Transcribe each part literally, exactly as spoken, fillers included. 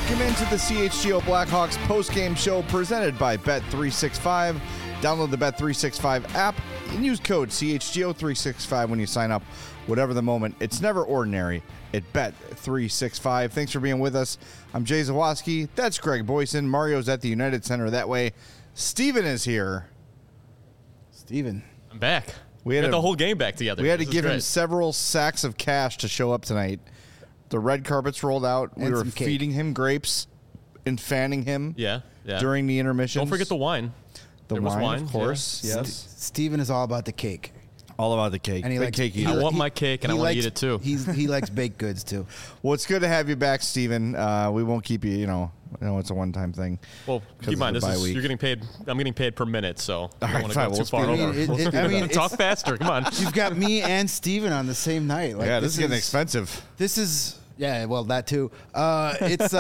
Welcome into the C H G O Blackhawks postgame show presented by Bet three sixty-five. Download the Bet three sixty-five app and use code C H G O three sixty-five when you sign up. Whatever the moment, it's never ordinary at Bet three sixty-five. Thanks for being with us. I'm Jay Zawoski. That's Greg Boyson. Mario's at the United Center that way. Steven is here. Steven. I'm back. We had got a, the whole game back together. We had to This is give him great. several sacks of cash to show up tonight. The red carpets rolled out. We And were some cake. feeding him grapes and fanning him Yeah, yeah. during the intermission. Don't forget the wine. The there was wine, wine, of course. yeah. Yes. Steven is all about the cake. All about the cake. And he Big likes cake he- eater. I want he- my cake, and I he wanna likes- eat it too. He's he likes baked goods too. Well, it's good to have you back, Steven. Uh, we won't keep you, you know, I know it's a one-time thing. Well, 'Cause keep in of mind, the this bye is week. you're getting paid. I'm getting paid per minute, so I right, don't want to fine, go we'll too far speed it over. up. It- We'll it- speed I it mean, up. it's- talk faster. Come on. You've got me and Steven on the same night. Like, yeah, this, is getting is, expensive. This is yeah, well that too. Uh, it's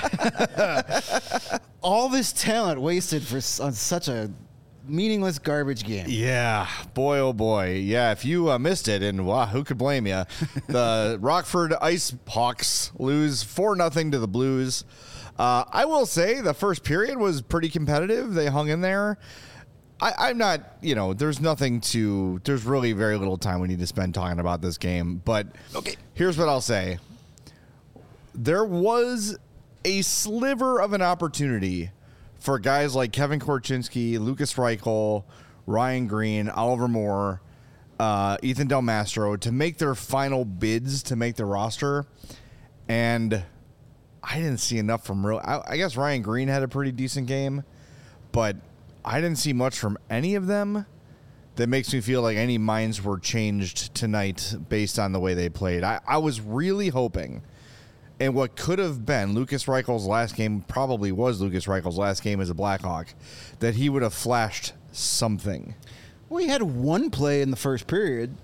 uh, all this talent wasted for s- on such a meaningless garbage game. Yeah, boy, oh boy. Yeah, if you uh, missed it, and wow, who could blame you? The Rockford Ice Hawks lose four nothing to the Blues. Uh, I will say the first period was pretty competitive. They hung in there. I, I'm not, you know, there's nothing to, there's really very little time we need to spend talking about this game. But Okay. here's what I'll say. There was a sliver of an opportunity for guys like Kevin Korchinski, Lucas Reichel, Ryan Green, Oliver Moore, uh, Ethan Del Mastro to make their final bids to make the roster. And I didn't see enough from real. I, I guess Ryan Green had a pretty decent game, but I didn't see much from any of them that makes me feel like any minds were changed tonight based on the way they played. I, I was really hoping, and what could have been Lucas Reichel's last game, probably was Lucas Reichel's last game as a Blackhawk, that he would have flashed something. Well, he had one play in the first period.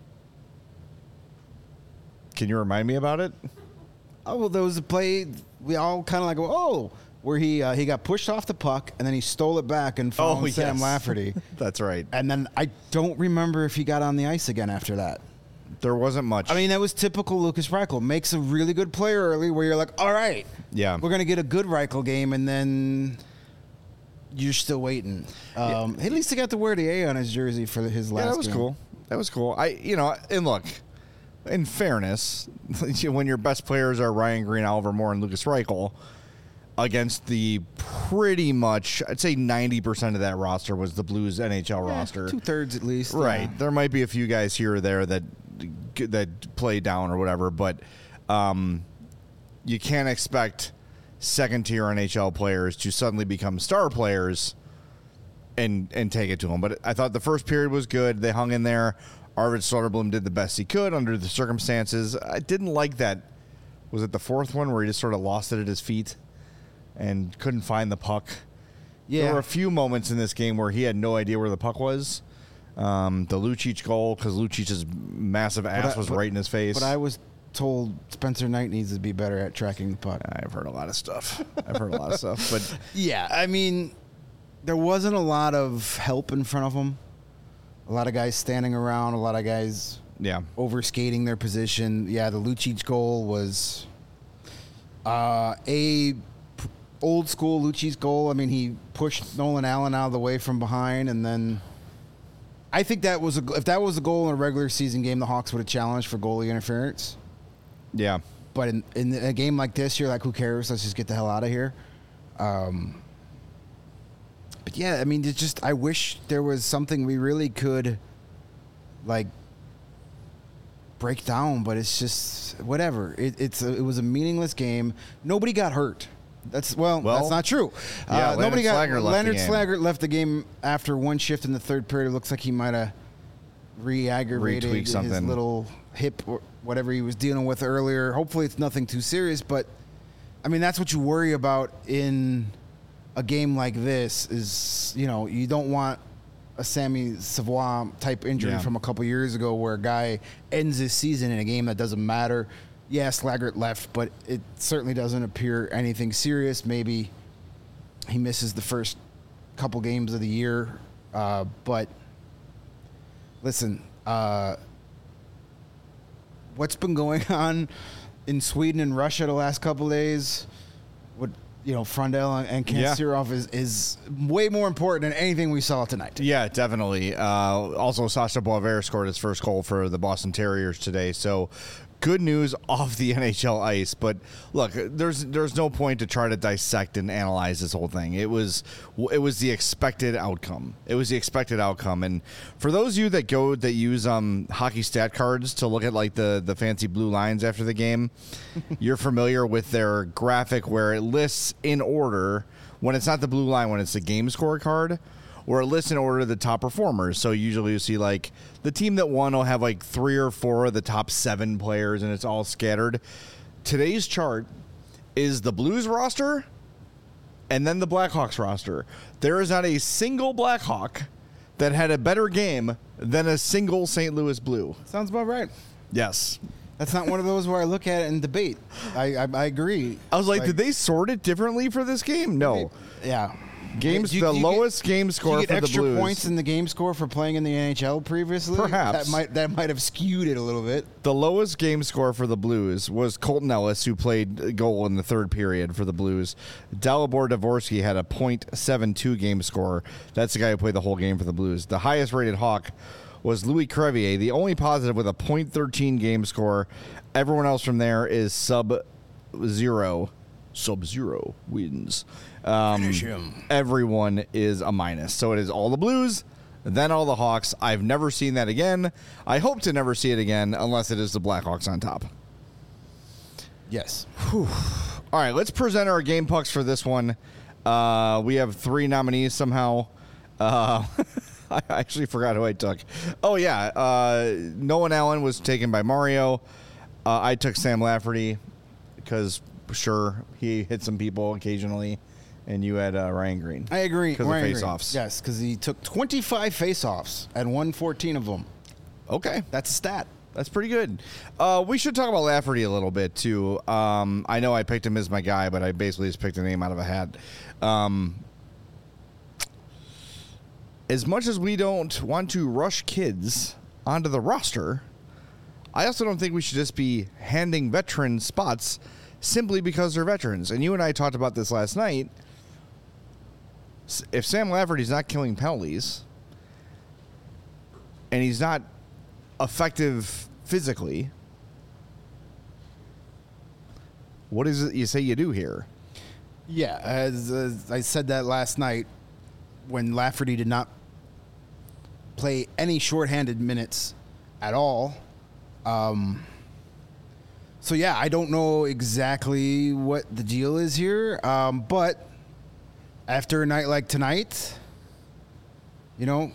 Can you remind me about it? Oh, well, there was a play we all kind of like, oh, where he uh, he got pushed off the puck and then he stole it back and found Oh, Sam yes. Lafferty. That's right. And then I don't remember if he got on the ice again after that. There wasn't much. I mean, that was typical Lucas Reichel. Makes a really good play early where you're like, all right, yeah. we're going to get a good Reichel game, and then you're still waiting. Um, At least he got to wear the A on his jersey for his last Yeah, that was game. cool. That was cool. I, you know, and look, in fairness, when your best players are Ryan Green, Oliver Moore, and Lucas Reichel, against the pretty much, I'd say ninety percent of that roster was the Blues N H L roster. Two-thirds at least. Right. yeah. There might be a few guys here or there that that play down or whatever, but um, you can't expect second-tier N H L players to suddenly become star players and and take it to them. But I thought the first period was good. They hung in there. Arvid Soderblom did the best he could under the circumstances. I didn't like that. Was it the fourth one where he just sort of lost it at his feet and couldn't find the puck? Yeah. There were a few moments in this game where he had no idea where the puck was. Um, the Lucic goal, because Lucic's massive ass I- was but- right in his face. But I was told Spencer Knight needs to be better at tracking the puck. I've heard a lot of stuff. I've heard a lot of stuff. But Yeah, I mean, there wasn't a lot of help in front of him. A lot of guys standing around, a lot of guys yeah, overskating their position. Yeah, the Lucic goal was uh, a p- old school Lucic goal. I mean, he pushed Nolan Allen out of the way from behind, and then I think that was a, if that was a goal in a regular season game, the Hawks would have challenged for goalie interference. yeah. But in, in a game like this, you're like, who cares? Let's just get the hell out of here. Um, but yeah, I mean, it's just I wish there was something we really could like break down, but it's just whatever. It, it's a, it was a meaningless game. Nobody got hurt. That's well, Well, that's not true. yeah, uh, nobody got. Leonard Slaggert left the Leonard game. Slaggert left the game after one shift in the third period. It looks like he might have re-aggravated Retweaked his something. little hip or whatever he was dealing with earlier. Hopefully, it's nothing too serious. But I mean, that's what you worry about in a game like this. Is you know you don't want a Sammy Savoie type injury Yeah. from a couple years ago where a guy ends his season in a game that doesn't matter. Yeah, Slaggert left, but it certainly doesn't appear anything serious. Maybe he misses the first couple games of the year. Uh, but listen, uh, what's been going on in Sweden and Russia the last couple days? what you know, Frondell and Yeah. Kanserov is is way more important than anything we saw tonight. Yeah, definitely. Uh, also, Sasha Boisvert scored his first goal for the Boston Terriers today. So, good news off the N H L ice. But look, there's there's no point to try to dissect and analyze this whole thing. It was it was the expected outcome. It was the expected outcome. And for those of you that go that use um, hockey stat cards to look at like the the fancy blue lines after the game, you're familiar with their graphic where it lists in order when it's not the blue line, when it's the game score card. Or a list in order of the top performers. So usually you see like the team that won will have like three or four of the top seven players, and it's all scattered. Today's chart is the Blues roster and then the Blackhawks roster. There is not a single Blackhawk that had a better game than a single Saint Louis Blue. Sounds about right. Yes. That's not one of those where I look at it and debate. I I, I agree. I was like, did they sort it differently for this game? No. Yeah. Games, Do you- the do you lowest get, game score do you get for the extra Blues. points in the game score for playing in the N H L previously? Perhaps. that might that might have skewed it a little bit. The lowest game score for the Blues was Colton Ellis, who played a goal in the third period for the Blues. Dalibor Dvorsky had a point seven two game score. That's the guy who played the whole game for the Blues. The highest rated Hawk was Louis Crevier, the only positive with a point one three game score. Everyone else from there is sub-zero. Sub-zero wins. Um, Finish him. Everyone is a minus. So it is all the Blues, then all the Hawks. I've never seen that again. I hope to never see it again unless it is the Blackhawks on top. Yes. All right, let's present our game pucks for this one. Uh, we have three nominees somehow. Uh, I actually forgot who I took. Oh, yeah. Uh, Nolan Allen was taken by Mario. Uh, I took Sam Lafferty because, sure, he hit some people occasionally. And you had uh, Ryan Green. I agree. Because of Ryan Green. face-offs. Yes, because he took twenty-five face-offs and won fourteen of them. Okay. That's a stat. That's pretty good. Uh, we should talk about Lafferty a little bit, too. Um, I know I picked him as my guy, but I basically just picked a name out of a hat. Um, as much as we don't want to rush kids onto the roster, I also don't think we should just be handing veteran spots simply because they're veterans. And you and I talked about this last night. If Sam Lafferty's not killing penalties and he's not effective physically, what is it you say you do here? Yeah, as, as I said that last night when Lafferty did not play any shorthanded minutes at all. Um, so, yeah, I don't know exactly what the deal is here, um, but after a night like tonight, you know,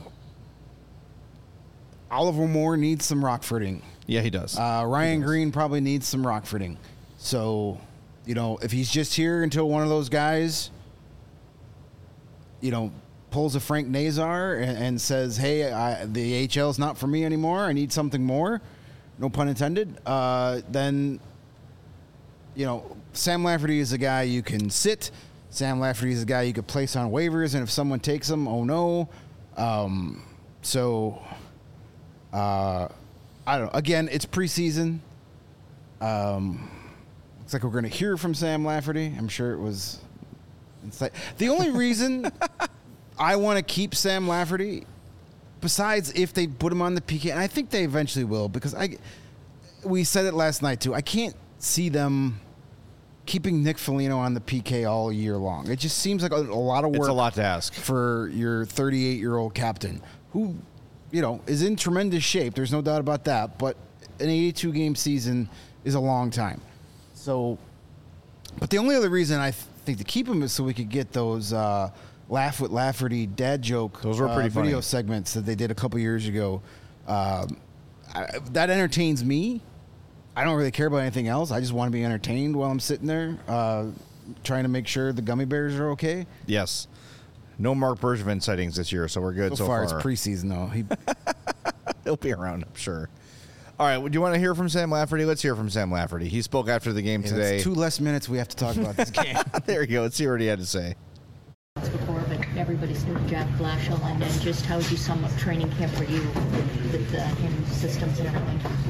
Oliver Moore needs some Rockfording. Yeah, he does. Uh, Ryan Green probably needs some Rockfording. So, you know, if he's just here until one of those guys, you know, pulls a Frank Nazar and, and says, hey, I, the A H L is not for me anymore. I need something more. No pun intended. Uh, then, you know, Sam Lafferty is a guy you can sit. Sam Lafferty is a guy you could place on waivers. And if someone takes him, oh, no. Um, so, uh, I don't know. Again, it's preseason. Um, looks like we're going to hear from Sam Lafferty. I'm sure it was. Inside. The only reason I want to keep Sam Lafferty, besides if they put him on the P K, and I think they eventually will, because I, we said it last night too. I can't see them keeping Nick Foligno on the P K all year long. It just seems like a, a lot of work. It's a lot to ask for your thirty-eight-year-old captain, who, you know, is in tremendous shape. There's no doubt about that. But an eighty-two game season is a long time. So, but the only other reason I th- think to keep him is so we could get those uh, Laugh with Lafferty dad joke Those were pretty uh, video funny. segments that they did a couple years ago. Um, I, that entertains me. I don't really care about anything else. I just want to be entertained while I'm sitting there uh, trying to make sure the gummy bears are okay. Yes. No Mark Bergevin sightings this year, so we're good So, so, far, far. it's preseason, though. He, He'll be around, I'm sure. All right, do you want to hear from Sam Lafferty? Let's hear from Sam Lafferty. He spoke after the game yeah, today. that's two less minutes we have to talk about this game. There you go. Let's see what he had to say. Before, but everybody's new to Jack Blashill, and then just how would you sum up training camp for you with, with uh, him, systems and everything?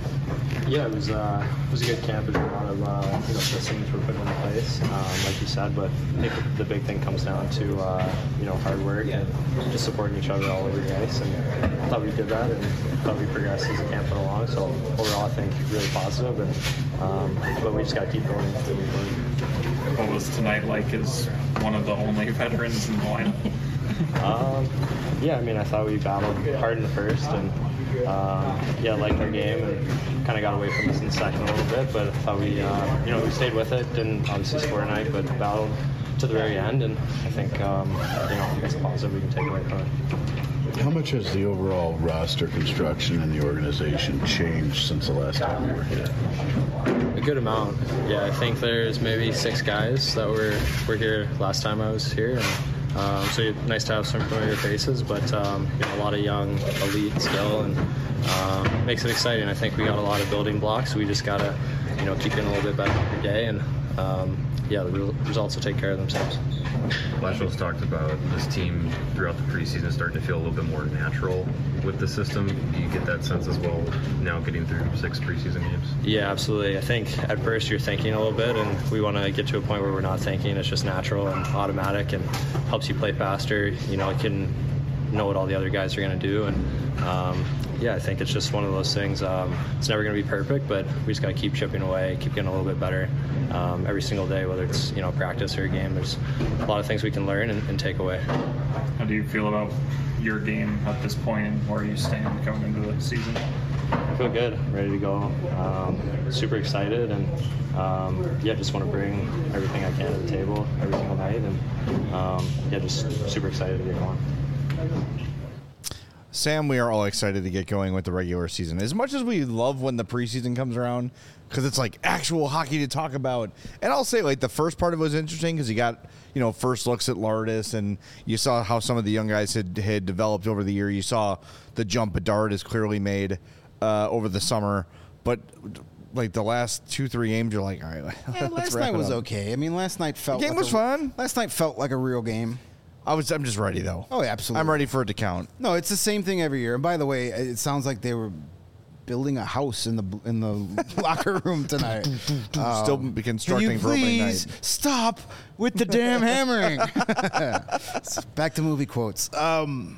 Yeah, it was uh, it was a good camp. There's a lot of uh, you know systems were put into place, um, like you said. But I think the big thing comes down to uh, you know hard work and just supporting each other all over the ice. And I thought we did that, and I thought we progressed as the camp went along. So overall, I think really positive. And um, but we just got to keep going. Moving forward. What was tonight like as one of the only veterans in the lineup? Um, yeah, I mean, I thought we battled hard in the first, and um, yeah, liked our game, and kind of got away from us in the second a little bit. But I thought we, uh, you know, we stayed with it. Didn't obviously score tonight, but battled to the very end, and I think, um, you know, I think it's a positive we can take away from it. How much has the overall roster construction in the organization changed since the last time we were here? A good amount. Yeah, I think there's maybe six guys that were were here last time I was here. And, um, so nice to have some familiar faces, but um, you know, a lot of young elite skill, and um, makes it exciting. I think we got a lot of building blocks. We just gotta, you know, keep getting a little bit better every day, and um, yeah, the re- results will take care of themselves. Blashiall's talked about this team throughout the preseason starting to feel a little bit more natural with the system. Do you get that sense as well now getting through six preseason games? Yeah, absolutely. I think at first you're thinking a little bit, and we want to get to a point where we're not thinking. It's just natural and automatic, and helps you play faster. You know, you can know what all the other guys are going to do, and um, yeah, I think it's just one of those things. Um, it's never going to be perfect, but we just got to keep chipping away, keep getting a little bit better um, every single day, whether it's, you know, practice or a game. There's a lot of things we can learn and, and take away. How do you feel about your game at this point, and where you stand coming into the season? I feel good, ready to go. Um, super excited, and um, yeah, just want to bring everything I can to the table every single night, and um, yeah, just super excited to get going. Sam, we are all excited to get going with the regular season. As much as we love when the preseason comes around, because it's like actual hockey to talk about. And I'll say, like, the first part of it was interesting because you got, you know, first looks at Lardis, and you saw how some of the young guys had, had developed over the year. You saw the jump Bedard has clearly made uh, over the summer. But, like, the last two, three games, you're like, all right, Yeah, last night was okay. I mean, last night felt The game like was a, fun. Last night felt like a real game. I was, I'm just ready, though. Oh, yeah, absolutely. I'm ready for it to count. No, it's the same thing every year. And by the way, it sounds like they were building a house in the in the locker room tonight. Um, Still be constructing can you for opening please night. stop with the damn hammering? Back to movie quotes. Um,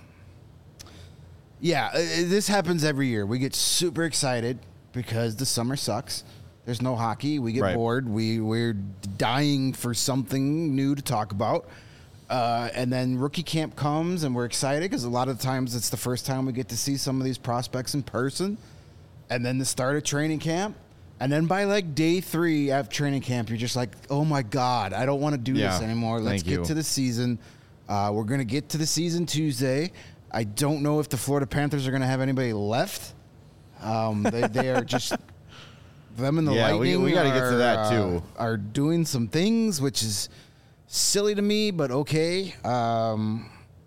yeah, uh, this happens every year. We get super excited because the summer sucks. There's no hockey. We get Right. bored. We we're dying for something new to talk about. Uh, and then rookie camp comes, and we're excited because a lot of times it's the first time we get to see some of these prospects in person. And then the start of training camp. And then by like day three after training camp, you're just like, oh my God, I don't want to do Yeah, this anymore. Let's thank get you. to the season. Uh, we're going to get to the season Tuesday. I don't know if the Florida Panthers are going to have anybody left. Um, they, they are just... Them and the Yeah, we- Lightning we gotta get to are, that, uh, too. are doing some things, which is silly to me, but okay. Um,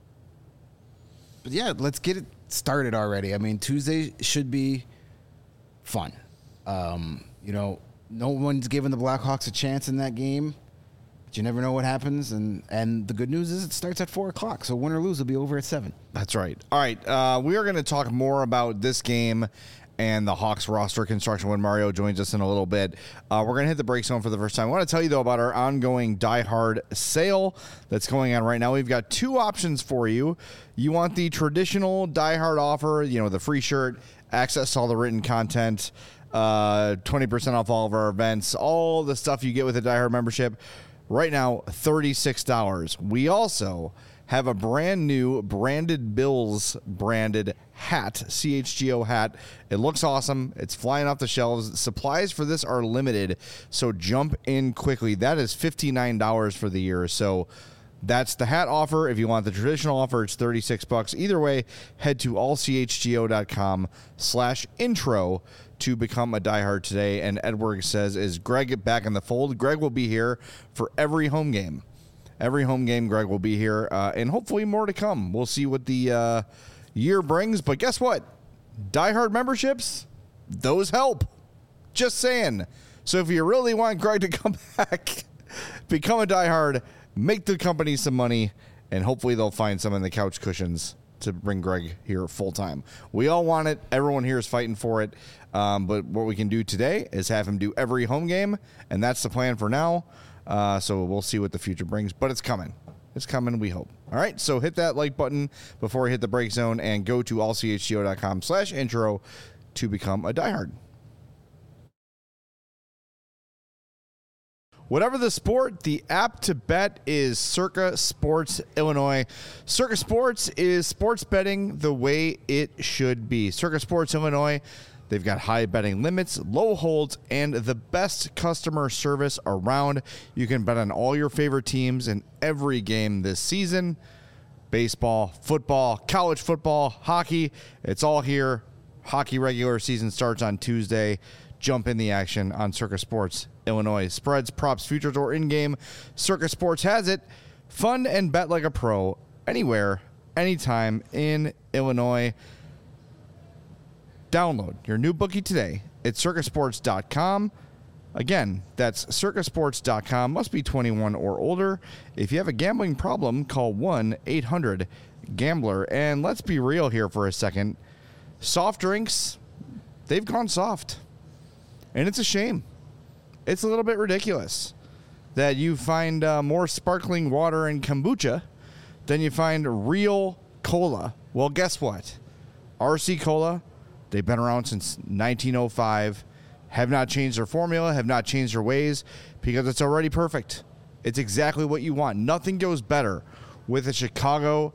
but yeah, let's get it started already. I mean, Tuesday should be fun. Um, you know, no one's giving the Blackhawks a chance in that game, but you never know what happens. And, and the good news is it starts at four o'clock, so win or lose, it'll be over at seven. That's right. All right. Uh, we are going to talk more about this game and the Hawks roster construction when Mario joins us in a little bit. Uh, we're going to hit the break zone for the first time. I want to tell you, though, about our ongoing Die Hard sale that's going on right now. We've got two options for you. You want the traditional Die Hard offer, you know, the free shirt, access to all the written content, uh, twenty percent off all of our events, all the stuff you get with a Die Hard membership. Right now, thirty-six dollars. We also have a brand new branded Bills branded hat, C H G O hat. It looks awesome. It's flying off the shelves. Supplies for this are limited, so jump in quickly. That is fifty-nine dollars for the year. So that's the hat offer. If you want the traditional offer, it's thirty-six bucks. Either way, head to allchgo.com slash intro to become a diehard today. And Edward says, is Greg back in the fold? Greg will be here for every home game. Every home game, Greg will be here, uh, and hopefully more to come. We'll see what the uh, year brings, but guess what? Die Hard memberships, those help. Just saying. So if you really want Greg to come back, become a Die Hard, make the company some money, and hopefully they'll find some in the couch cushions to bring Greg here full time. We all want it. Everyone here is fighting for it. Um, but what we can do today is have him do every home game, and that's the plan for now. Uh, so we'll see what the future brings, but it's coming. It's coming, we hope. All right, so hit that like button before we hit the break zone and go to all c h g o dot com slash intro to become a diehard. Whatever the sport, the app to bet is Circa Sports Illinois. Circa Sports is sports betting the way it should be. Circa Sports Illinois, they've got high betting limits, low holds, and the best customer service around. You can bet on all your favorite teams in every game this season. Baseball, football, college football, hockey, it's all here. Hockey regular season starts on Tuesday. Jump in the action on Circa Sports Illinois. Spreads, props, futures, or in-game, Circa Sports has it. Fun and bet like a pro anywhere, anytime in Illinois. Download your new bookie today at circa sports dot com. Again, that's circa sports dot com. Must be twenty-one or older. If you have a gambling problem, call one eight hundred gambler. And let's be real here for a second. Soft drinks, they've gone soft. And it's a shame. It's a little bit ridiculous that you find uh, more sparkling water and kombucha than you find real cola. Well, guess what? R C Cola, they've been around since nineteen oh five, have not changed their formula, have not changed their ways, because it's already perfect. It's exactly what you want. Nothing goes better with a Chicago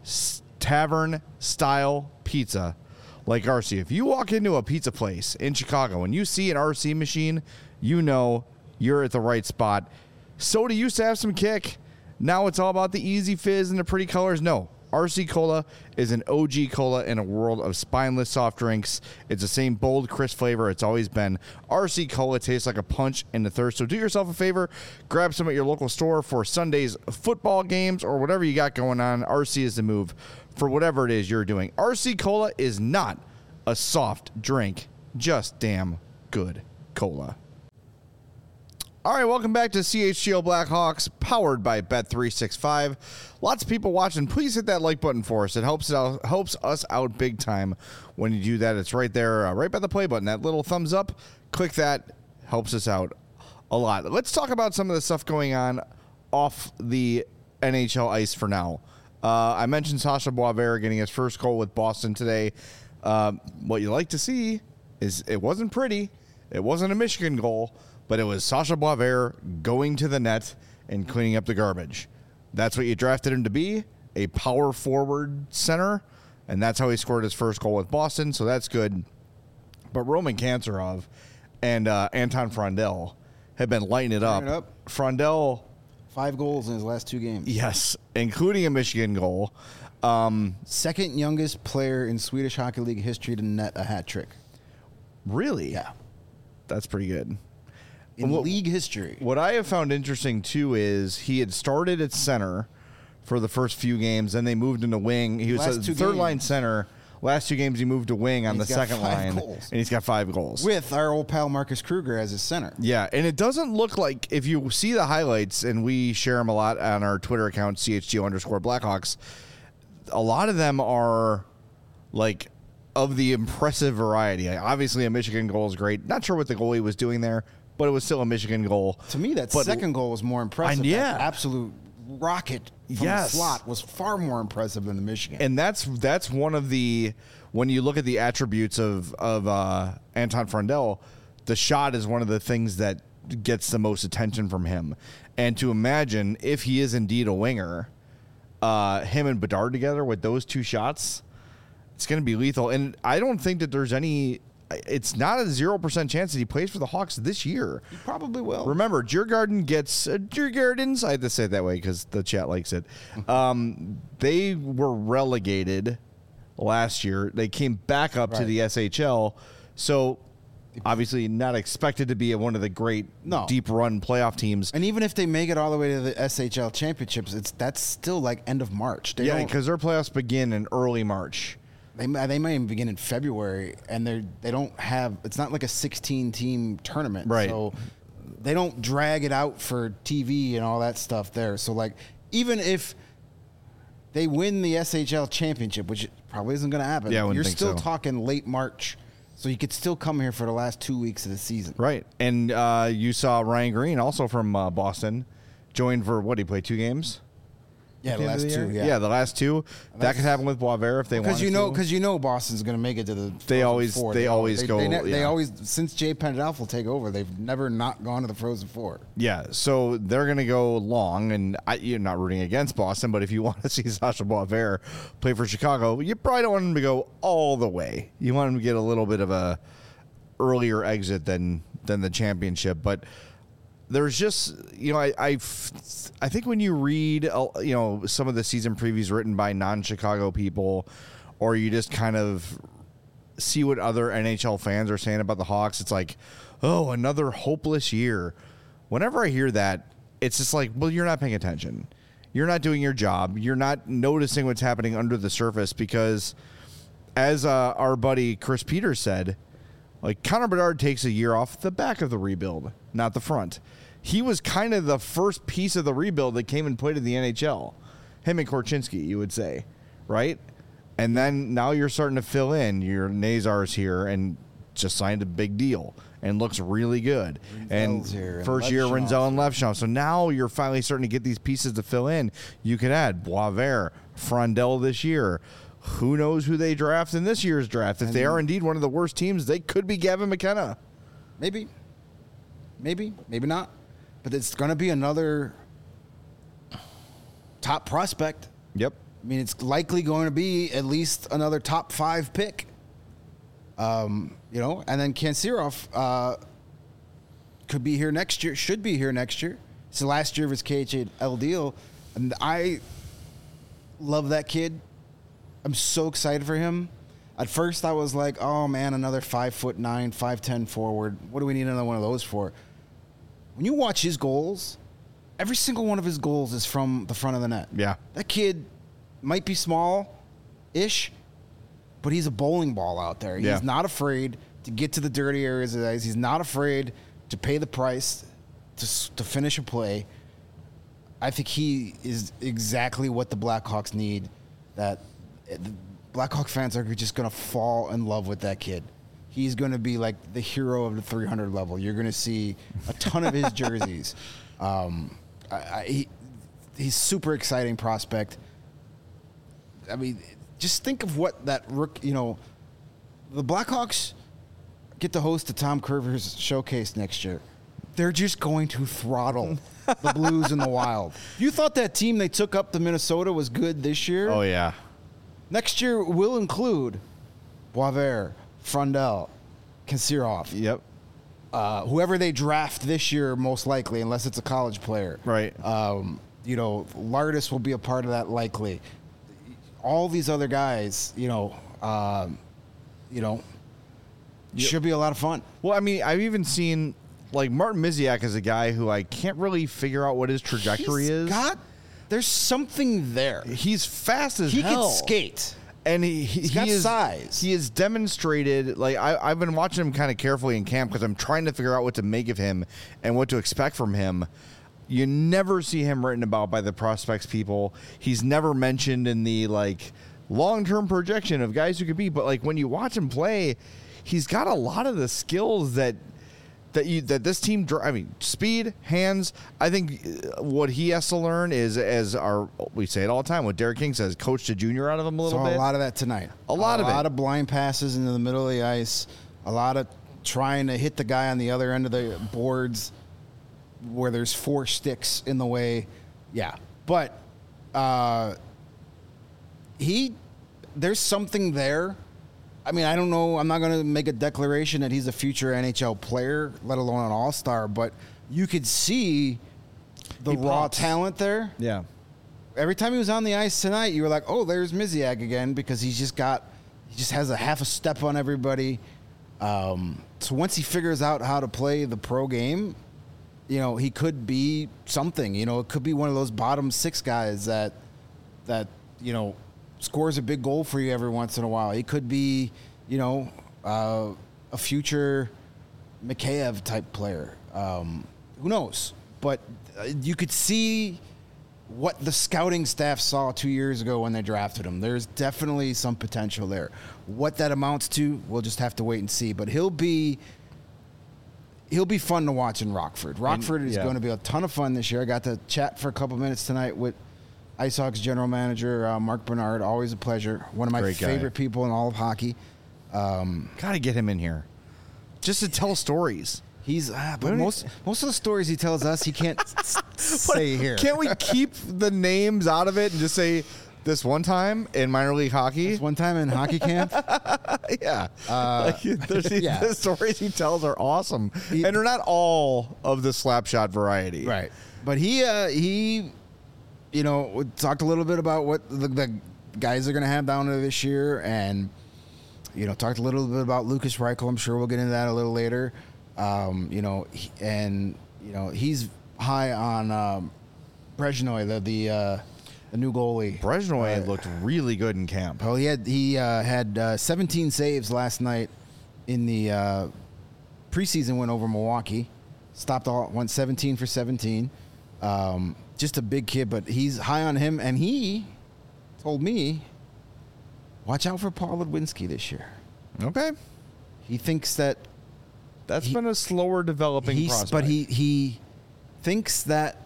tavern-style pizza like R C. If you walk into a pizza place in Chicago and you see an R C machine, you know you're at the right spot. Soda used to have some kick. Now it's all about the easy fizz and the pretty colors. No, R C Cola is an O G cola in a world of spineless soft drinks. It's the same bold, crisp flavor it's always been. R C Cola tastes like a punch in the thirst. So do yourself a favor, grab some at your local store for Sunday's football games or whatever you got going on. R C is the move for whatever it is you're doing. R C Cola is not a soft drink, just damn good cola. All right, welcome back to C H G O Blackhawks, powered by Bet three sixty-five. Lots of people watching. Please hit that like button for us. It helps it out, helps us out big time when you do that. It's right there, uh, right by the play button. That little thumbs up, click that, helps us out a lot. Let's talk about some of the stuff going on off the N H L ice for now. Uh, I mentioned Sasha Boisvert getting his first goal with Boston today. Uh, what you like to see is it wasn't pretty. It wasn't a Michigan goal, but it was Sasha Boisvert going to the net and cleaning up the garbage. That's what you drafted him to be, a power forward center, and that's how he scored his first goal with Boston, so that's good. But Roman Kantarov and uh, Anton Frondell have been lighting it up. Turn it up. Frondell... Five goals in his last two games. Yes, including a Michigan goal. Um, Second youngest player in Swedish Hockey League history to net a hat trick. really? Yeah. That's pretty good. In What- league history. What I have found interesting, too, is he had started at center for the first few games, then they moved into wing. He was Last a two third-line games. center. Last two games, he moved to wing on And the he's got second five line, goals. and he's got five goals. With our old pal Marcus Kruger as his center. Yeah, and it doesn't look like, if you see the highlights, and we share them a lot on our Twitter account, C H G O underscore Blackhawks, a lot of them are, like, of the impressive variety. Obviously, a Michigan goal is great. Not sure what the goalie was doing there, but it was still a Michigan goal. To me, that But- second goal was more impressive. And yeah. That absolute rocket from Yes. the slot was far more impressive than the Michigan. And that's that's one of the, when you look at the attributes of of uh, Anton Frondell, the shot is one of the things that gets the most attention from him. And to imagine if he is indeed a winger, uh, him and Bedard together with those two shots, it's going to be lethal. And I don't think that there's any. It's not a zero percent chance that he plays for the Hawks this year. He probably will. Remember, Djurgården gets uh, Djurgårdens. I had to say it that way because the chat likes it. Um, they were relegated last year. They came back up to Right. the S H L, so obviously not expected to be one of the great No. deep run playoff teams. And even if they make it all the way to the S H L championships, it's that's still like end of March. They Yeah, don't- because their playoffs begin in early March. They might, they might even begin in February, and they they don't have. It's not like a sixteen team tournament, Right. So they don't drag it out for T V and all that stuff there. So like, even if they win the S H L championship, which probably isn't going to happen. Yeah, I wouldn't You're think still so. talking late March, so you could still come here for the last two weeks of the season. Right. And uh, you saw Ryan Green, also from uh, Boston, joined for what? He played two games? Yeah, At the end of last year? two. Yeah, Yeah, the last two. That could happen with Boisvert if they want because to. you know, because you know, Boston's going to make it to the. They Frozen always- Four. they always they, go- They, ne- they yeah. always since Jay Pendelf will take over, they've never not gone to the Frozen Four. Yeah, so they're going to go long, and I, you're not rooting against Boston, but if you want to see Sasha Boisvert play for Chicago, you probably don't want him to go all the way. You want him to get a little bit of a earlier exit than than the championship, but there's just, you know, I I, f- I think when you read, uh, you know, some of the season previews written by non-Chicago people, or you just kind of see what other N H L fans are saying about the Hawks, it's like, oh, another hopeless year. Whenever I hear that, it's just like, well, you're not paying attention. You're not doing your job. You're not noticing what's happening under the surface because, as uh, our buddy Chris Peters said, like Connor Bedard takes a year off the back of the rebuild, not the front. He was kind of the first piece of the rebuild that came and played in the N H L. Him and Korchinski, you would say, right? And then now you're starting to fill in. Your Nazar's here and just signed a big deal and looks really good. Rinzel's and here and first year Levshov. Rinzel and Levshov. So now you're finally starting to get these pieces to fill in. You could add Boisvert, Frondel this year. Who knows who they draft in this year's draft? If they are indeed one of the worst teams, they could be Gavin McKenna. Maybe, maybe, maybe not. But it's going to be another top prospect. Yep. I mean, it's likely going to be at least another top five pick. Um, you know, and then Kansirov uh, could be here next year. Should be here next year. It's the last year of his K H L deal, and I love that kid. I'm so excited for him. At first, I was like, "Oh man, another five foot nine, five ten forward. What do we need another one of those for?" When you watch his goals, every single one of his goals is from the front of the net. Yeah. That kid might be small-ish, but he's a bowling ball out there. Yeah. He's not afraid to get to the dirty areas of the ice. He's not afraid to pay the price to s- to finish a play. I think he is exactly what the Blackhawks need. That uh, the Blackhawk fans are just going to fall in love with that kid. He's going to be like the hero of the three hundred level. You're going to see a ton of his jerseys. Um, I, I, he, he's super exciting prospect. I mean, just think of what that rook. You know, the Blackhawks get to host the Tom Curvers Showcase next year. They're just going to throttle the Blues in the Wild. You thought that team they took up to Minnesota was good this year? Oh, yeah. Next year will include Boisvert, Frondel, Kansirov, Yep. uh, whoever they draft this year, most likely, unless it's a college player. Right. Um, you know, Lardis will be a part of that likely. All these other guys, you know, um, you know, should be a lot of fun. Well, I mean, I've even seen, like, Martin Miziak is a guy who I can't really figure out what his trajectory He's is. got, there's something there. He's fast as He hell. can skate. And he, he, He's he got is, size. He has demonstrated, like, I, I've been watching him kind of carefully in camp because I'm trying to figure out what to make of him and what to expect from him. You never see him written about by the prospects people. He's never mentioned in the, like, long-term projection of guys who could be. But, like, when you watch him play, he's got a lot of the skills that that you that this team. dr- I mean, speed, hands. I think uh, what he has to learn is, as our we say it all the time, what Derek King says, coach the junior out of him a little Saw bit. a lot of that tonight. A lot of A it. lot of blind passes into the middle of the ice. A lot of trying to hit the guy on the other end of the boards where there's four sticks in the way. Yeah. But uh, he, there's something there. I mean, I don't know. I'm not going to make a declaration that he's a future N H L player, let alone an all-star, but you could see the He raw pops. talent there. Yeah. Every time he was on the ice tonight, you were like, "Oh, there's Miziak again," because he's just got, he just has a half a step on everybody. Um, so once he figures out how to play the pro game, you know, he could be something. You know, it could be one of those bottom six guys that, that you know, scores a big goal for you every once in a while. He could be, you know, uh, a future Mikheyev type player. Um, who knows? But uh, you could see what the scouting staff saw two years ago when they drafted him. There's definitely some potential there. What that amounts to, we'll just have to wait and see. But he'll be he'll be fun to watch in Rockford. Rockford And, is yeah. going to be a ton of fun this year. I got to chat for a couple minutes tonight with IceHogs general manager uh, Mark Bernard. Always a pleasure. One of my Great guy. favorite people in all of hockey. Um, Got to get him in here, just to tell stories. He's ah, but What do you- most most of the stories he tells us he can't s- say here. Can't we keep the names out of it and just say this one time in minor league hockey? This one time in hockey camp, Yeah. Uh, like, there's- yeah. The stories he tells are awesome. He- and they're not all of the slap shot variety. right? But he uh, he, you know, we talked a little bit about what the, the guys are going to have down there this year, and you know, talked a little bit about Lucas Reichel. I'm sure we'll get into that a little later. Um, you know, he, and you know, he's high on um, Brezhnoy, the the uh, the new goalie. Brezhnoy Uh, looked really good in camp. Well, he had he uh, had uh, seventeen saves last night in the uh, preseason win over Milwaukee. Stopped all went seventeen for seventeen. Um, just a big kid, but he's high on him, and he told me, watch out for Paul Ludwinski this year. Okay. He thinks that That's He- been a slower developing he's, prospect. but he he thinks that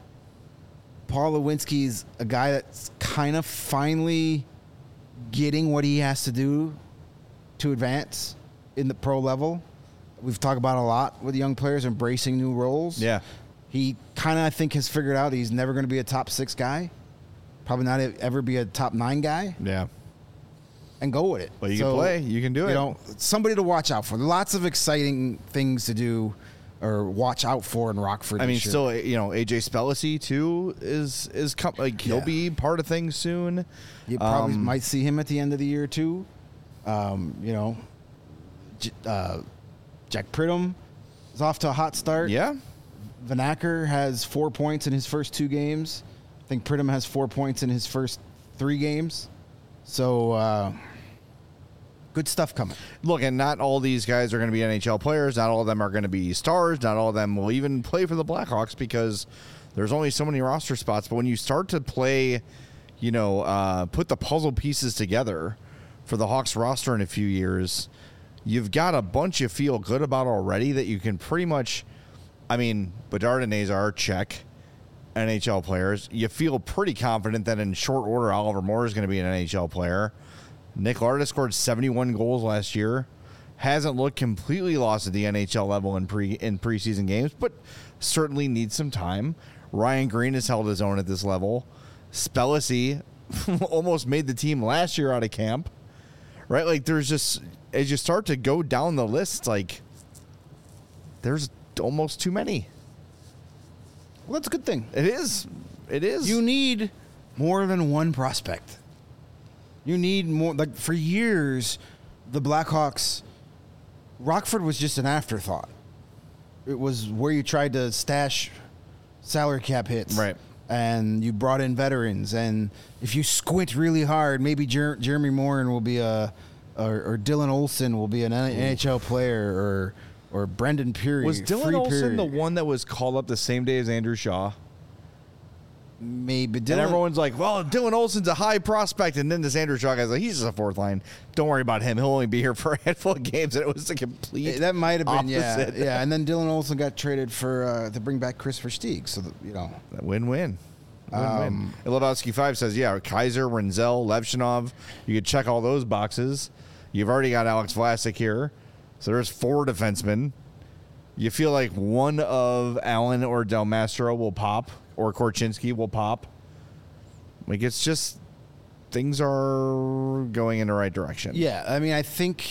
Paul Lewinsky's a guy that's kind of finally getting what he has to do to advance in the pro level. We've talked about a lot with young players embracing new roles. Yeah. He kind of, I think, has figured out he's never going to be a top six guy. Probably not ever be a top nine guy, Yeah. and go with it. Well, you can play. You can do it. You know, somebody to watch out for. Lots of exciting things to do or watch out for in Rockford. I mean, this year. still, you know, A J Spellacy too is is com- like he'll Yeah. be part of things soon. You probably Um, might see him at the end of the year too. Um, you know, J- uh, Jack Pridham is off to a hot start. Yeah. Vanacker has four points in his first two games. I think Pridham has four points in his first three games. So uh, good stuff coming. Look, and not all these guys are going to be N H L players. Not all of them are going to be stars. Not all of them will even play for the Blackhawks because there's only so many roster spots. But when you start to play, you know, uh, put the puzzle pieces together for the Hawks roster in a few years, you've got a bunch you feel good about already that you can pretty much, I mean, Bedard and Nazar, check, N H L players. You feel pretty confident that in short order, Oliver Moore is going to be an N H L player. Nick Larda scored seventy-one goals last year. Hasn't looked completely lost at the N H L level in pre in preseason games, but certainly needs some time. Ryan Green has held his own at this level. Spellacy almost made the team last year out of camp. Right? Like there's just as you start to go down the list, like there's almost too many. Well, that's a good thing. It is. It is. You need more than one prospect. You need more. Like for years, the Blackhawks, Rockford was just an afterthought. It was where you tried to stash salary cap hits, Right. And you brought in veterans, and if you squint really hard, maybe Jer- Jeremy Morin will be a, or, or Dylan Olsen will be an N H L player, or or Brendan Peary. Was Dylan Free Olsen Peary. the one that was called up the same day as Andrew Shaw? Maybe Dylan. And everyone's like, well, Dylan Olsen's a high prospect. And then this Andrew Shaw guy's like, he's just a fourth line. Don't worry about him. He'll only be here for a handful of games. And it was the complete That might have been, yeah, opposite. yeah. And then Dylan Olsen got traded for uh, to bring back Chris Versteeg. So that, you know, Win-win. Win-win. Um, and Lebowski five says, yeah, Kaiser, Renzel, Levshinov. You could check all those boxes. You've already got Alex Vlasic here. So there's four defensemen. You feel like one of Allen or Del Mastro will pop, or Korchinski will pop. Like, it's just, things are going in the right direction. yeah. I mean, I think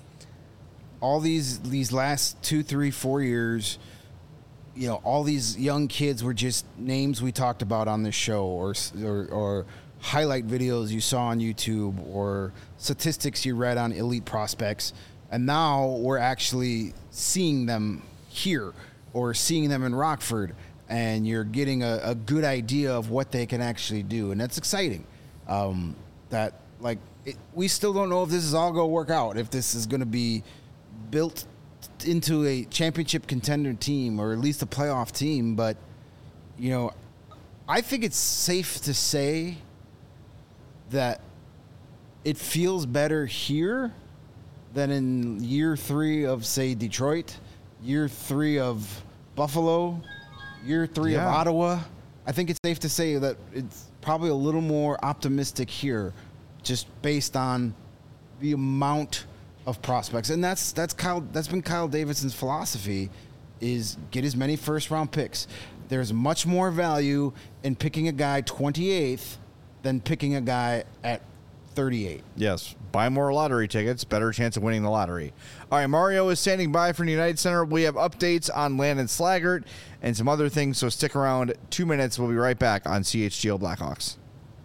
all these these last two, three, four years, you know, all these young kids were just names we talked about on this show, or or, or highlight videos you saw on YouTube, or statistics you read on Elite Prospects, and now we're actually seeing them here or seeing them in Rockford, and you're getting a, a good idea of what they can actually do, and that's exciting. Um, that like it, we still don't know if this is all going to work out, if this is going to be built into a championship contender team or at least a playoff team, but you know, I think it's safe to say that it feels better here than in year three of, say, Detroit, year three of Buffalo, year three Yeah. of Ottawa. I think it's safe to say that it's probably a little more optimistic here, just based on the amount of prospects. And that's that's Kyle that's been Kyle Davidson's philosophy, is get as many first round picks. There's much more value in picking a guy twenty-eighth than picking a guy at thirty-eight. Yes. Buy more lottery tickets. Better chance of winning the lottery. All right. Mario is standing by from the United Center. We have updates on Landon Slaggert and some other things. So stick around. Two minutes. We'll be right back on C H G O Blackhawks.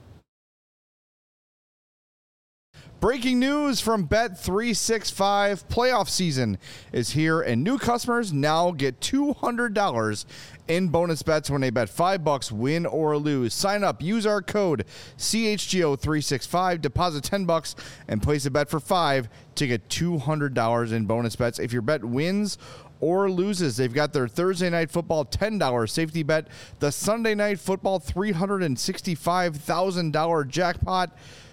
Breaking news from Bet three sixty-five. Playoff season is here, and new customers now get two hundred dollars in bonus bets when they bet five bucks, win or lose. Sign up, use our code C H G O three sixty-five, deposit ten bucks, and place a bet for five to get two hundred dollars in bonus bets. If your bet wins or loses, they've got their Thursday Night Football ten dollars safety bet, the Sunday Night Football three hundred sixty-five thousand dollars jackpot.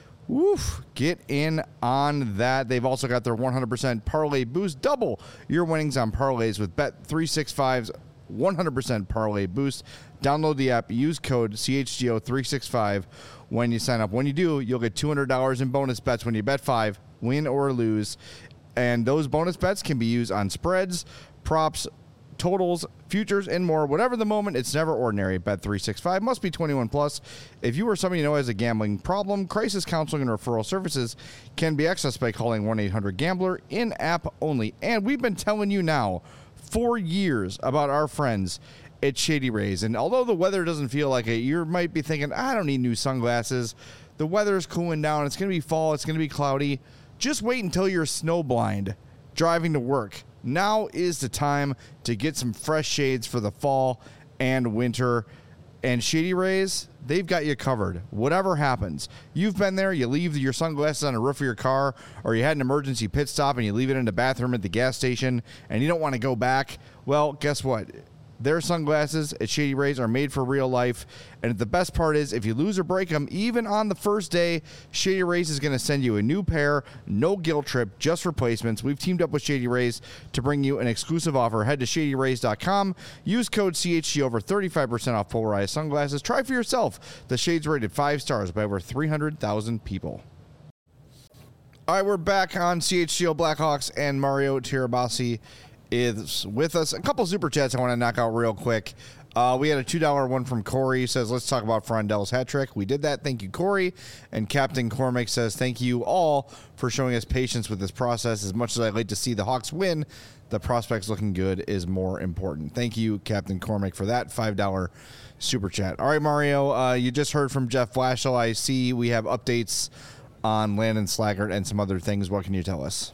Woof, get in on that. They've also got their one hundred percent parlay boost. Double your winnings on parlays with Bet three sixty-five's one hundred percent parlay boost. Download the app, use code C H G O three sixty-five when you sign up. When you do, you'll get two hundred dollars in bonus bets when you bet five, win or lose. And those bonus bets can be used on spreads, props, totals, futures, and more. Whatever the moment, it's never ordinary. Bet three sixty-five must be twenty-one plus. If you or somebody you know has a gambling problem, crisis counseling and referral services can be accessed by calling one eight hundred gambler, in-app only. And we've been telling you now for years about our friends at Shady Rays. And although the weather doesn't feel like it, you might be thinking, I don't need new sunglasses. The weather's cooling down. It's going to be fall. It's going to be cloudy. Just wait until you're snowblind driving to work. Now is the time to get some fresh shades for the fall and winter. And Shady Rays, they've got you covered. Whatever happens, you've been there, you leave your sunglasses on the roof of your car, or you had an emergency pit stop and you leave it in the bathroom at the gas station and you don't want to go back. Well, guess what? Their sunglasses at Shady Rays are made for real life. And the best part is, if you lose or break them, even on the first day, Shady Rays is going to send you a new pair, no guilt trip, just replacements. We've teamed up with Shady Rays to bring you an exclusive offer. Head to shady rays dot com. Use code C H G over thirty-five percent off polarized sunglasses. Try for yourself. The shades rated five stars by over three hundred thousand people. All right, we're back on C H G O Blackhawks, and Mario Tirabassi is with us. A couple super chats I want to knock out real quick. Uh, we had a two dollar one from Corey. He says, let's talk about Frondell's hat trick. We did that. Thank you, Corey. And Captain Cormac says, thank you all for showing us patience with this process. As much as I'd like to see the Hawks win, the prospects looking good is more important. Thank you, Captain Cormac, for that five dollar super chat. All right, Mario, uh, you just heard from Jeff Blashill. I see we have updates on Landon Slaggert and some other things. What can you tell us?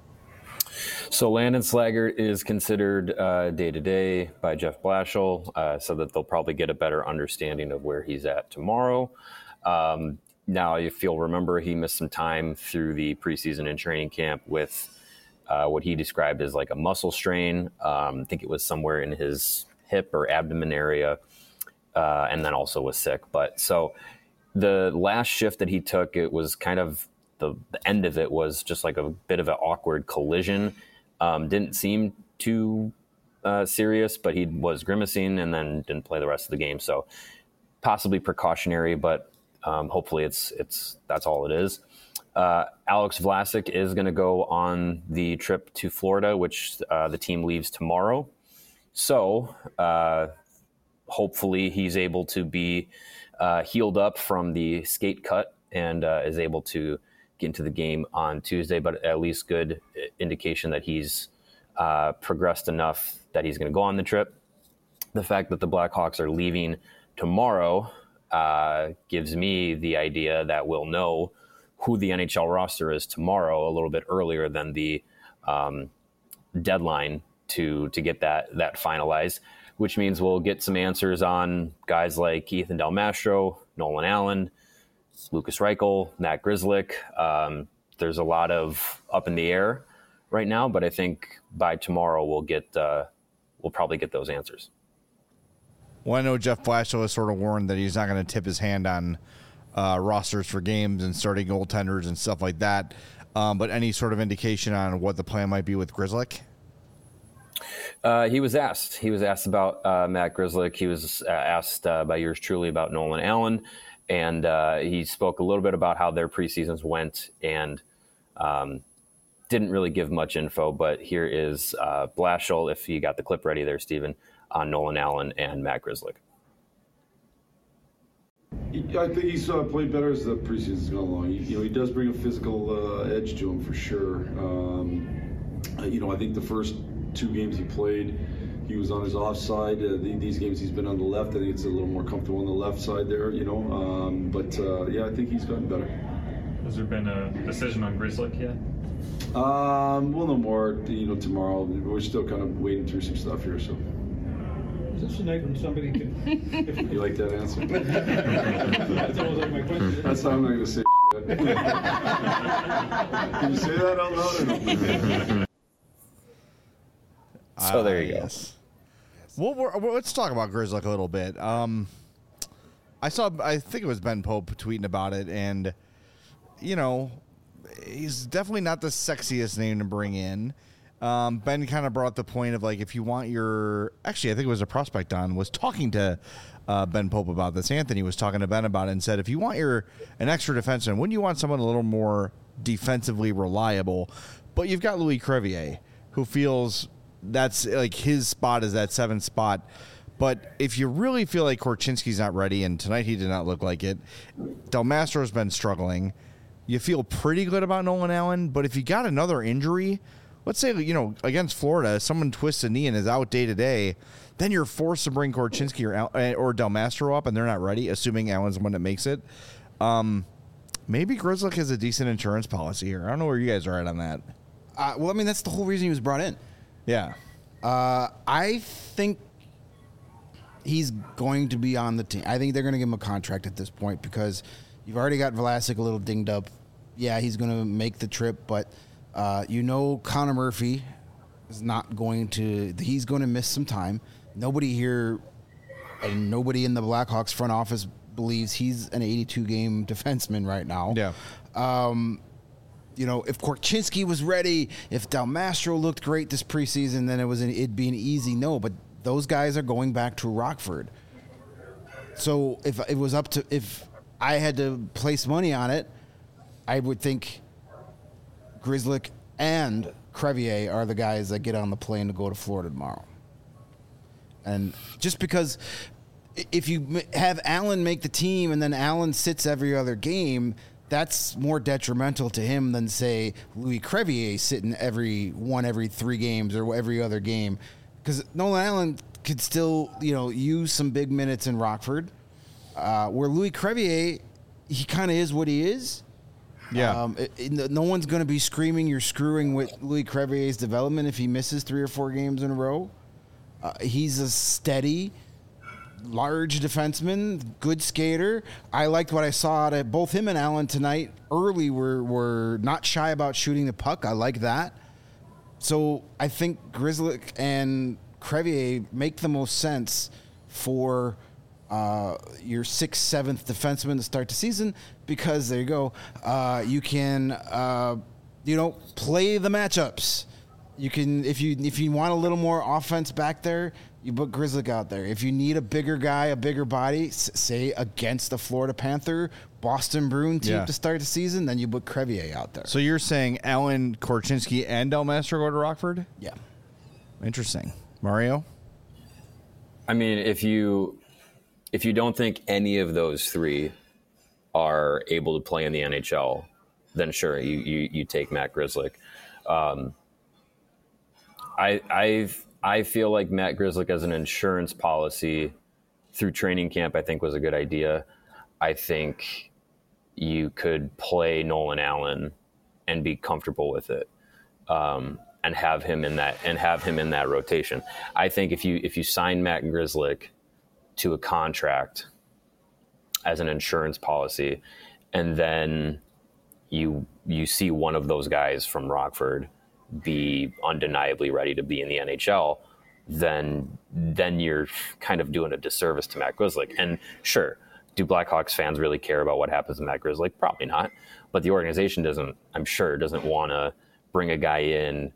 So Landon Slaggert is considered uh, day-to-day by Jeff Blashill, uh, so that they'll probably get a better understanding of where he's at tomorrow. Um, now, if you'll remember, he missed some time through the preseason and training camp with uh, what he described as like a muscle strain. Um, I think it was somewhere in his hip or abdomen area, uh, and then also was sick. But so the last shift that he took, it was kind of The, the end of it was just like a bit of an awkward collision. Um, didn't seem too uh, serious, but he was grimacing and then didn't play the rest of the game. So possibly precautionary, but um, hopefully it's it's that's all it is. Uh, Alex Vlasic is going to go on the trip to Florida, which uh, the team leaves tomorrow. So uh, hopefully he's able to be uh, healed up from the skate cut and uh, is able to get into the game on Tuesday, but at least good indication that he's uh, progressed enough that he's going to go on the trip. The fact that the Blackhawks are leaving tomorrow uh, gives me the idea that we'll know who the N H L roster is tomorrow a little bit earlier than the um, deadline to to get that that finalized, which means we'll get some answers on guys like Ethan Del Mastro, Nolan Allen, Lucas Reichel, Matt Grzelcyk. Um, there's a lot of up in the air right now, but I think by tomorrow we'll get uh, we'll probably get those answers. Well, I know Jeff Blashill has sort of warned that he's not going to tip his hand on uh, rosters for games and starting goaltenders and stuff like that. Um, but any sort of indication on what the plan might be with Grzelcyk? Uh, he was asked. He was asked about uh, Matt Grzelcyk. He was uh, asked uh, by yours truly about Nolan Allen, and uh, he spoke a little bit about how their preseasons went and um, didn't really give much info. But here is uh, Blashill, if you got the clip ready there, Stephen, on Nolan Allen and Matt Grzelcyk. I think he's uh, played better as the preseason's gone along. He, you know, he does bring a physical uh, edge to him for sure. Um, you know, I think the first two games he played, he was on his offside. Uh, the, these games he's been on the left. I think it's a little more comfortable on the left side there, you know. Um, but uh, yeah, I think he's gotten better. Has there been a decision on Grzelcyk yet? Um, we'll know more, you know, tomorrow. We're still kind of wading through some stuff here, so. Is this a night when somebody can... You like that answer? That's always like my question. That's how I'm not going to say shit. Can you say that out loud or no? So there you uh, go. Yes. Well, we're, we're, let's talk about Grzelcyk a little bit. Um, I saw, I think it was Ben Pope tweeting about it, and, you know, he's definitely not the sexiest name to bring in. Um, Ben kind of brought the point of, like, if you want your, actually, I think it was a prospect on, was talking to uh, Ben Pope about this. Anthony was talking to Ben about it and said, if you want your, an extra defenseman, wouldn't you want someone a little more defensively reliable? But you've got Louis Crevier, who feels that's like his spot is that seventh spot. But if you really feel like Korchinski's not ready, and tonight he did not look like it, Del Mastro's been struggling, you feel pretty good about Nolan Allen. But if you got another injury, let's say, you know, against Florida, someone twists a knee and is out day to day, then you're forced to bring Korchinski or, Al- or Del Mastro up, and they're not ready, assuming Allen's the one that makes it. Um, maybe Grzelcyk has a decent insurance policy here. I don't know where you guys are at on that. Uh, well, I mean, that's the whole reason he was brought in. Yeah. Uh, I think he's going to be on the team. I think they're going to give him a contract at this point because you've already got Vlasic a little dinged up. Yeah, he's going to make the trip, but uh, you know Connor Murphy is not going to – he's going to miss some time. Nobody here and nobody in the Blackhawks front office believes he's an eighty-two game defenseman right now. Yeah. Um You know, if Korchinski was ready, if Del Mastro looked great this preseason, then it was an, it'd be an easy no. But those guys are going back to Rockford. So if it was up to, if I had to place money on it, I would think Grzelcyk and Crevier are the guys that get on the plane to go to Florida tomorrow. And just because if you have Allen make the team and then Allen sits every other game, that's more detrimental to him than, say, Louis Crevier sitting every one every three games or every other game. Because Nolan Allen could still, you know, use some big minutes in Rockford. Uh, where Louis Crevier, he kind of is what he is. Yeah. Um, it, it, no one's going to be screaming you're screwing with Louis Crevier's development if he misses three or four games in a row. Uh, he's a steady, large defenseman, good skater. I liked what I saw out of both him and Allen tonight. Early were were not shy about shooting the puck. I like that. So I think Grzelcyk and Crevier make the most sense for uh, your sixth, seventh defenseman to start the season because there you go. Uh, you can uh, you know play the matchups. You can if you if you want a little more offense back there, you put Grzelcyk out there. If you need a bigger guy, a bigger body, s- say against the Florida Panther, Boston Bruin team Yeah. to start the season, then you put Crevier out there. So you're saying Allen, Korchinski, and Del Mastro go to Rockford? Yeah. Interesting. Mario? I mean, if you if you don't think any of those three are able to play in the N H L, then sure, you you, you take Matt Grzelcyk. Um, I I I feel like Matt Grzelcyk as an insurance policy through training camp, I think was a good idea. I think you could play Nolan Allen and be comfortable with it, um, and have him in that and have him in that rotation. I think if you if you sign Matt Grzelcyk to a contract as an insurance policy, and then you you see one of those guys from Rockford be undeniably ready to be in the N H L, then then you're kind of doing a disservice to Matt Grzelcyk. And sure, do Blackhawks fans really care about what happens to Matt Grzelcyk? Probably not. But the organization doesn't, I'm sure, doesn't want to bring a guy in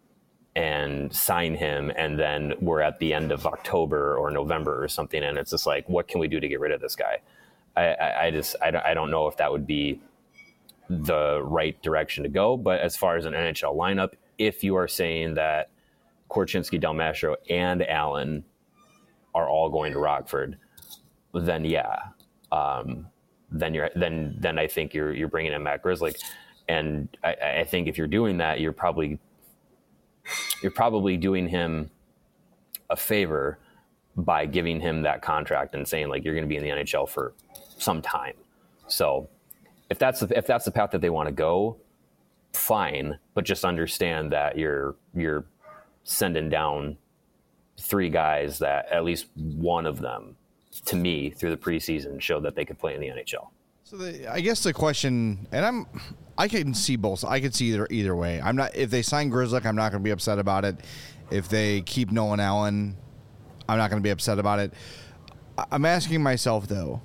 and sign him, and then we're at the end of October or November or something, and it's just like, what can we do to get rid of this guy? I, I, I just, I don't, I don't know if that would be the right direction to go. But as far as an N H L lineup, if you are saying that Korchinski, Del Mastro, and Allen are all going to Rockford, then yeah, um, then you're then then I think you're you're bringing in Matt Grzelcyk, and I, I think if you're doing that, you're probably you're probably doing him a favor by giving him that contract and saying, like, you're going to be in the N H L for some time. So if that's the, if that's the path that they want to go, fine, but just understand that you're you're sending down three guys that at least one of them, to me, through the preseason showed that they could play in the N H L. So the, I guess the question, and I'm, I can see both. I could see either either way. I'm not. If they sign Grzelcyk, I'm not going to be upset about it. If they keep Nolan Allen, I'm not going to be upset about it. I'm asking myself though,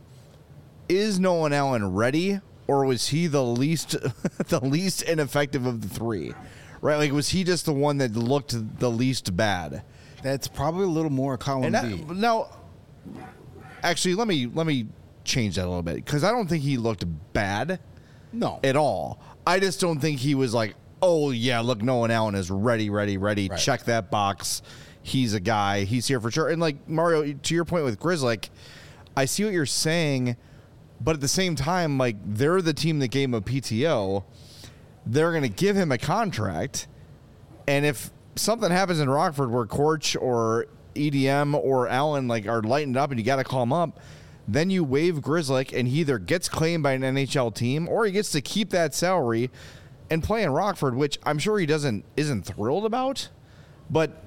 is Nolan Allen ready, or was he the least, the least ineffective of the three? Right? Like, was he just the one that looked the least bad? That's probably a little more column and B. I, now, actually, let me let me change that a little bit, because I don't think he looked bad. No. At all. I just don't think he was like, oh, yeah, look, Nolan Allen is ready, ready, ready. Right. Check that box. He's a guy. He's here for sure. And, like, Mario, to your point with Grzelcyk, I see what you're saying, but at the same time, like, they're the team that gave him a P T O. They're going to give him a contract. And if something happens in Rockford where Korch or E D M or Allen, like, are lightened up and you got to call him up, then you waive Grzelcyk, and he either gets claimed by an N H L team or he gets to keep that salary and play in Rockford, which I'm sure he doesn't isn't thrilled about. But,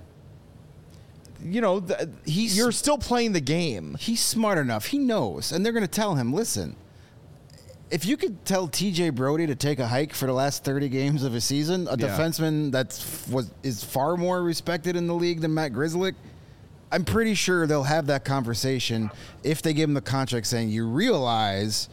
you know, th- He's- you're still playing the game. He's smart enough. He knows. And they're going to tell him, listen, if you could tell T J Brody to take a hike for the last thirty games of a season, a Yeah. defenseman that's was is far more respected in the league than Matt Grzelcyk, I'm pretty sure they'll have that conversation if they give him the contract saying, you realize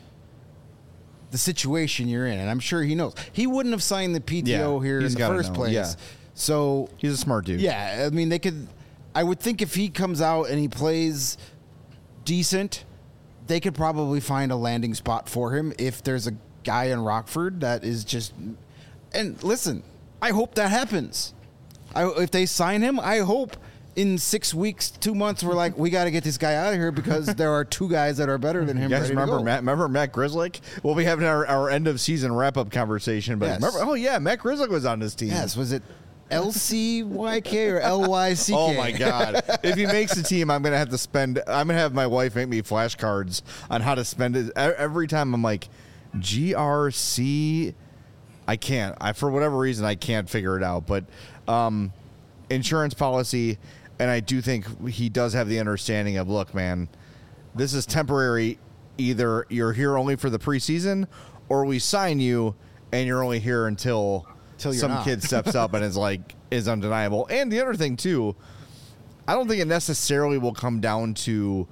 the situation you're in. And I'm sure he knows. He wouldn't have signed the P T O Yeah, here in he's the gotta first know, place. yeah. So He's a smart dude. yeah, I mean, they could. I would think if he comes out and he plays decent, they could probably find a landing spot for him if there's a guy in Rockford that is just. And listen, I hope that happens. I, if they sign him, I hope in six weeks, two months, we're like, we got to get this guy out of here because there are two guys that are better than him. You guys ready to remember go. Matt? Remember Matt Grzelcyk? We'll be having our, our end of season wrap up conversation. But Yes. remember, oh yeah, Matt Grzelcyk was on this team. Yes, was it L C Y K or L Y C K? Oh my God! If he makes the team, I'm gonna have to spend. I'm gonna have my wife make me flashcards on how to spend it. E- Every time I'm like, G R C. I can't. I for whatever reason I can't figure it out. But um, insurance policy, and I do think he does have the understanding of, look, man, this is temporary. Either you're here only for the preseason, or we sign you and you're only here until. Till you're some not. kid steps up and is like is undeniable. And the other thing too, I don't think it necessarily will come down to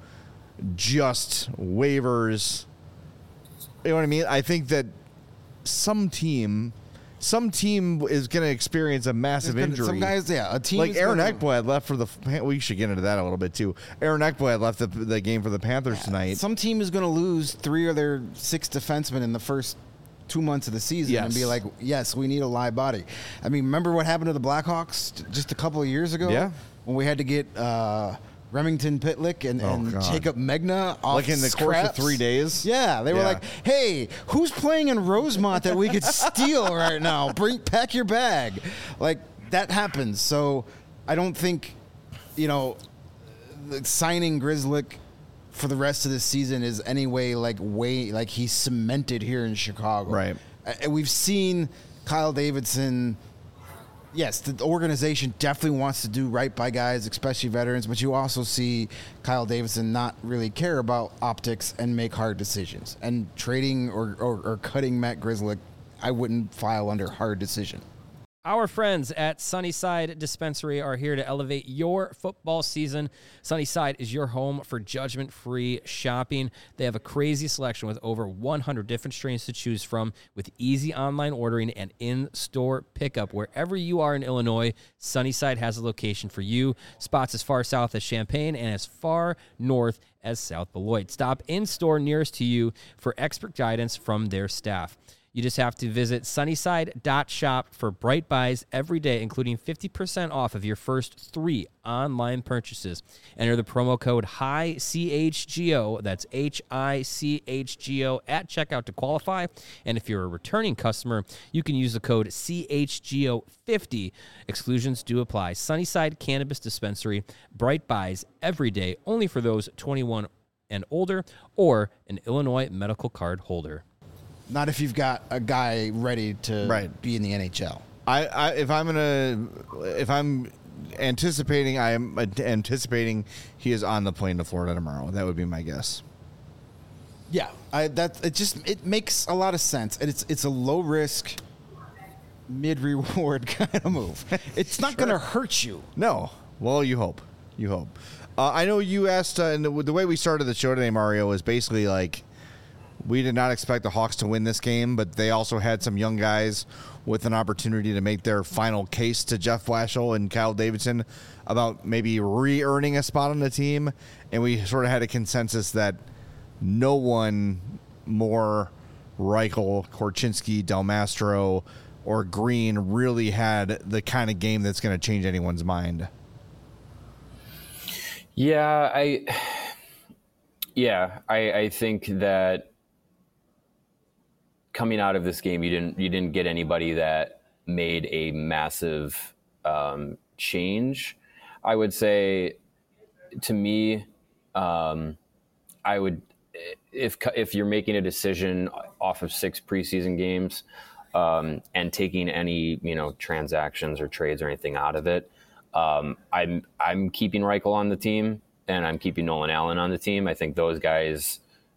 just waivers. You know what I mean? I think that some team, some team is going to experience a massive There's gonna- injury. some guys, yeah, a team like is Aaron gonna- Ekblad left for the. We should get into that a little bit too. Aaron Ekblad left the, the game for the Panthers tonight. Some team is going to lose three of their six defensemen in the first two months of the season and Yes. be like, yes, we need a live body. I mean, remember what happened to the Blackhawks t- just a couple of years ago? Yeah. When we had to get uh, Remington Pitlick and, Oh, and God. Jacob Megna off Like in the course of scraps. three days? Yeah. They were Yeah. like, hey, who's playing in Rosemont that we could steal right now? Bring Pack your bag. Like, that happens. So I don't think, you know, the signing Grzelcyk for the rest of the season is anyway like way like he's cemented here in Chicago. Right. And we've seen Kyle Davidson. Yes, the organization definitely wants to do right by guys, especially veterans, but you also see Kyle Davidson not really care about optics and make hard decisions. And trading or, or, or cutting Matt Grzelcyk, I wouldn't file under hard decision. Our friends at Sunnyside Dispensary are here to elevate your football season. Sunnyside is your home for judgment-free shopping. They have a crazy selection with over one hundred different strains to choose from, with easy online ordering and in-store pickup. Wherever you are in Illinois, Sunnyside has a location for you. Spots as far south as Champaign and as far north as South Beloit. Stop in-store nearest to you for expert guidance from their staff. You just have to visit sunnyside dot shop for bright buys every day, including fifty percent off of your first three online purchases. Enter the promo code H I C H G O, that's H I C H G O, at checkout to qualify. And if you're a returning customer, you can use the code C H G O fifty. Exclusions do apply. Sunnyside Cannabis Dispensary, bright buys every day, only for those twenty-one and older or an Illinois medical card holder. Not if you've got a guy ready to Right. be in the N H L. I, I if I'm gonna if I'm anticipating I am anticipating he is on the plane to Florida tomorrow. That would be my guess. Yeah, I, that it just it makes a lot of sense, and it's it's a low risk, mid reward kind of move. It's not going to hurt you. No. Well, you hope. You hope. Uh, I know you asked, uh, and the, the way we started the show today, Mario, is basically like we did not expect the Hawks to win this game, but they also had some young guys with an opportunity to make their final case to Jeff Blashill and Kyle Davidson about maybe re-earning a spot on the team, and we sort of had a consensus that no one more Reichel, Korchinski, Del Mastro, or Green really had the kind of game that's going to change anyone's mind. Yeah, I yeah, I, I think that coming out of this game, you didn't you didn't get anybody that made a massive um, change. I would say, to me, um, I would if if you're making a decision off of six preseason games um, and taking any you know transactions or trades or anything out of it, um, I'm I'm keeping Reichel on the team and I'm keeping Nolan Allen on the team. I think those guys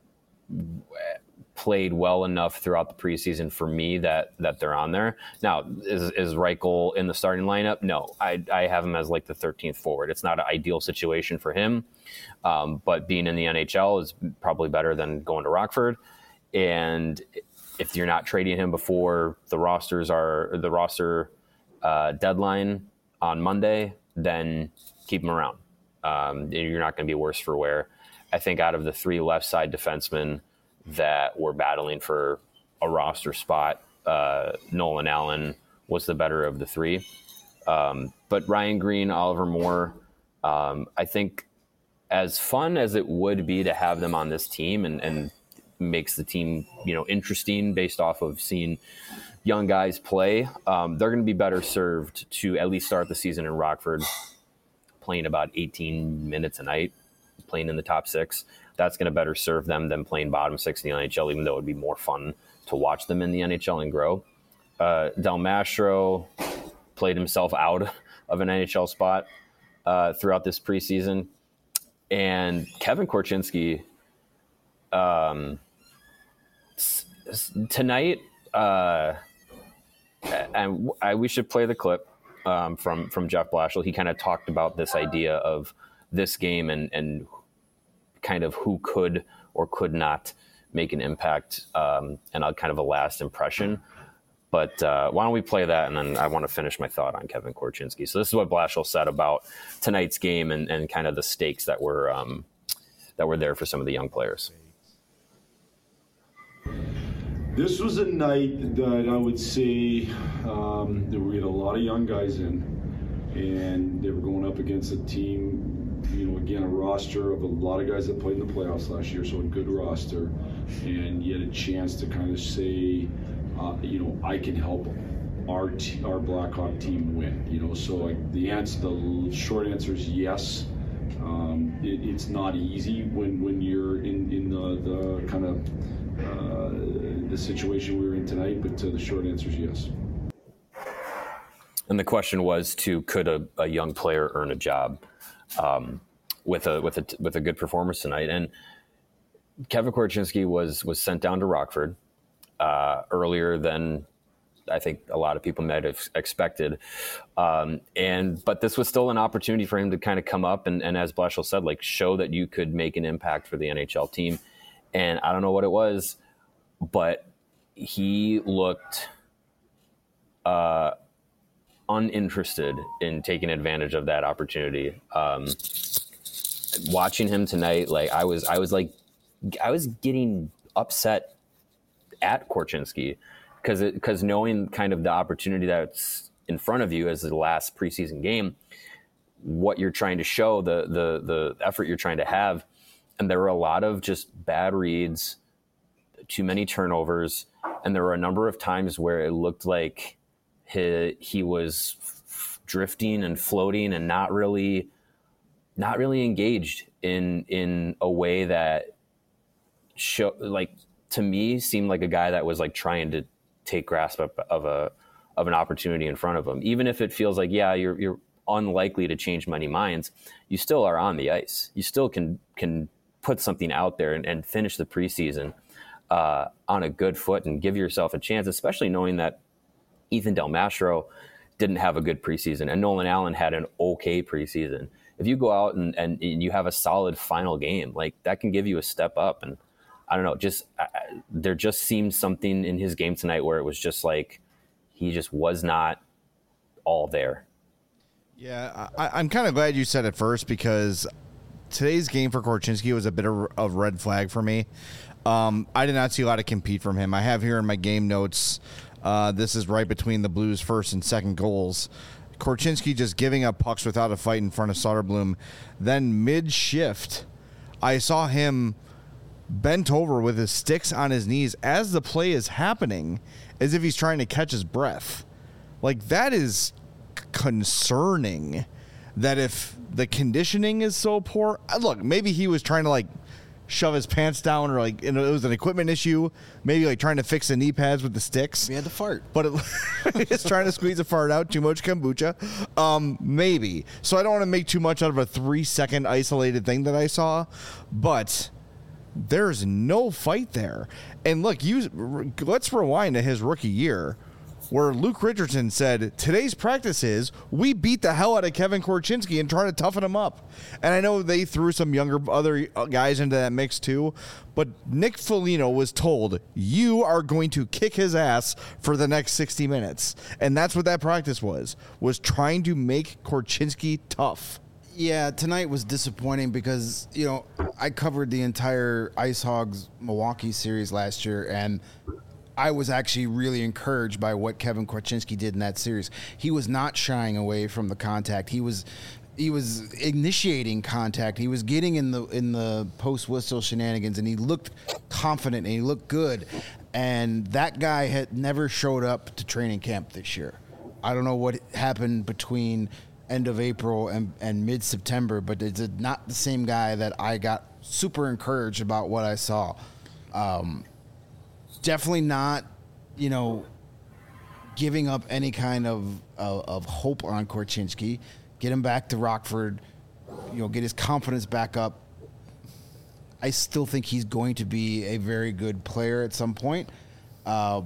played well enough throughout the preseason for me that that they're on there. Now, is is Reichel in the starting lineup? No, I I have him as like the thirteenth forward. It's not an ideal situation for him, um, but being in the N H L is probably better than going to Rockford. And if you're not trading him before the rosters are the roster uh, deadline on Monday, then keep him around. Um, you're not going to be worse for wear. I think out of the three left side defensemen that were battling for a roster spot, uh, Nolan Allen was the better of the three. Um, but Ryan Green, Oliver Moore, um, I think as fun as it would be to have them on this team and, and makes the team, you know, interesting based off of seeing young guys play, um, they're going to be better served to at least start the season in Rockford, playing about eighteen minutes a night, playing in the top six. That's going to better serve them than playing bottom six in the N H L, even though it would be more fun to watch them in the N H L and grow. Uh, Del Mastro played himself out of an N H L spot uh, throughout this preseason. And Kevin Korchinski, um, s- s- tonight, uh, and I, we should play the clip um, from, from Jeff Blashill. He kind of talked about this idea of this game and, and kind of who could or could not make an impact um, and a kind of a last impression. But uh, why don't we play that, and then I want to finish my thought on Kevin Korchinski. So this is what Blashill said about tonight's game and, and kind of the stakes that were um, that were there for some of the young players. This was a night that I would say um, that we had a lot of young guys in, and they were going up against a team, you know, again, a roster of a lot of guys that played in the playoffs last year, so a good roster, and you had a chance to kind of say, uh, you know, I can help our t- our Blackhawk team win, you know, so like the answer, the short answer is yes. Um, it, it's not easy when, when you're in, in the, the kind of uh, the situation we were in tonight, but uh, the short answer is yes. And the question was to could a, a young player earn a job um, with a with a with a good performance tonight? And Kevin Korchinski was was sent down to Rockford uh, earlier than I think a lot of people might have expected. Um, and but this was still an opportunity for him to kind of come up and, and as Blashill said, like show that you could make an impact for the N H L team. And I don't know what it was, but he looked uh, uninterested in taking advantage of that opportunity. Um, watching him tonight, like I was, I was like, I was getting upset at Korchinski because because knowing kind of the opportunity that's in front of you as the last preseason game, what you're trying to show, the the the effort you're trying to have, and there were a lot of just bad reads, too many turnovers, and there were a number of times where it looked like he he was f- drifting and floating and not really not really engaged in in a way that show like to me seemed like a guy that was like trying to take grasp of, of a of an opportunity in front of him. Even if it feels like, yeah, you're you're unlikely to change many minds, you still are on the ice. You still can can put something out there and, and finish the preseason uh, on a good foot and give yourself a chance, especially knowing that Ethan Del Mastro didn't have a good preseason and Nolan Allen had an okay preseason. If you go out and, and you have a solid final game, like that can give you a step up. And I don't know, just uh, there just seemed something in his game tonight where it was just like he just was not all there. Yeah, I, I'm kind of glad you said it first because today's game for Korchinski was a bit of a red flag for me. Um, I did not see a lot of compete from him. I have here in my game notes, uh, this is right between the Blues' first and second goals. Korchinski just giving up pucks without a fight in front of Soderblom. Then mid-shift, I saw him bent over with his sticks on his knees as the play is happening, as if he's trying to catch his breath. Like, that is concerning that if the conditioning is so poor, look, maybe he was trying to like shove his pants down or like, you know, it was an equipment issue, maybe like trying to fix the knee pads with the sticks. He had to fart. But it, it's trying to squeeze a fart out, too much kombucha. Um, maybe. So I don't want to make too much out of a three second isolated thing that I saw, but there's no fight there. And look, you let's rewind to his rookie year where Luke Richardson said, today's practice is we beat the hell out of Kevin Korchinski and try to toughen him up. And I know they threw some younger other guys into that mix too, but Nick Foligno was told, you are going to kick his ass for the next sixty minutes. And that's what that practice was, was trying to make Korchinski tough. Yeah, tonight was disappointing because, you know, I covered the entire Ice Hogs Milwaukee series last year, and I was actually really encouraged by what Kevin Korchinski did in that series. He was not shying away from the contact. He was he was initiating contact. He was getting in the in the post whistle shenanigans, and he looked confident and he looked good. And that guy had never showed up to training camp this year. I don't know what happened between end of April and, and mid-September, but it's not the same guy that I got super encouraged about what I saw. Um, definitely not, you know, giving up any kind of, of, of hope on Korchinski. Get him back to Rockford, you know, get his confidence back up. I still think he's going to be a very good player at some point. Uh,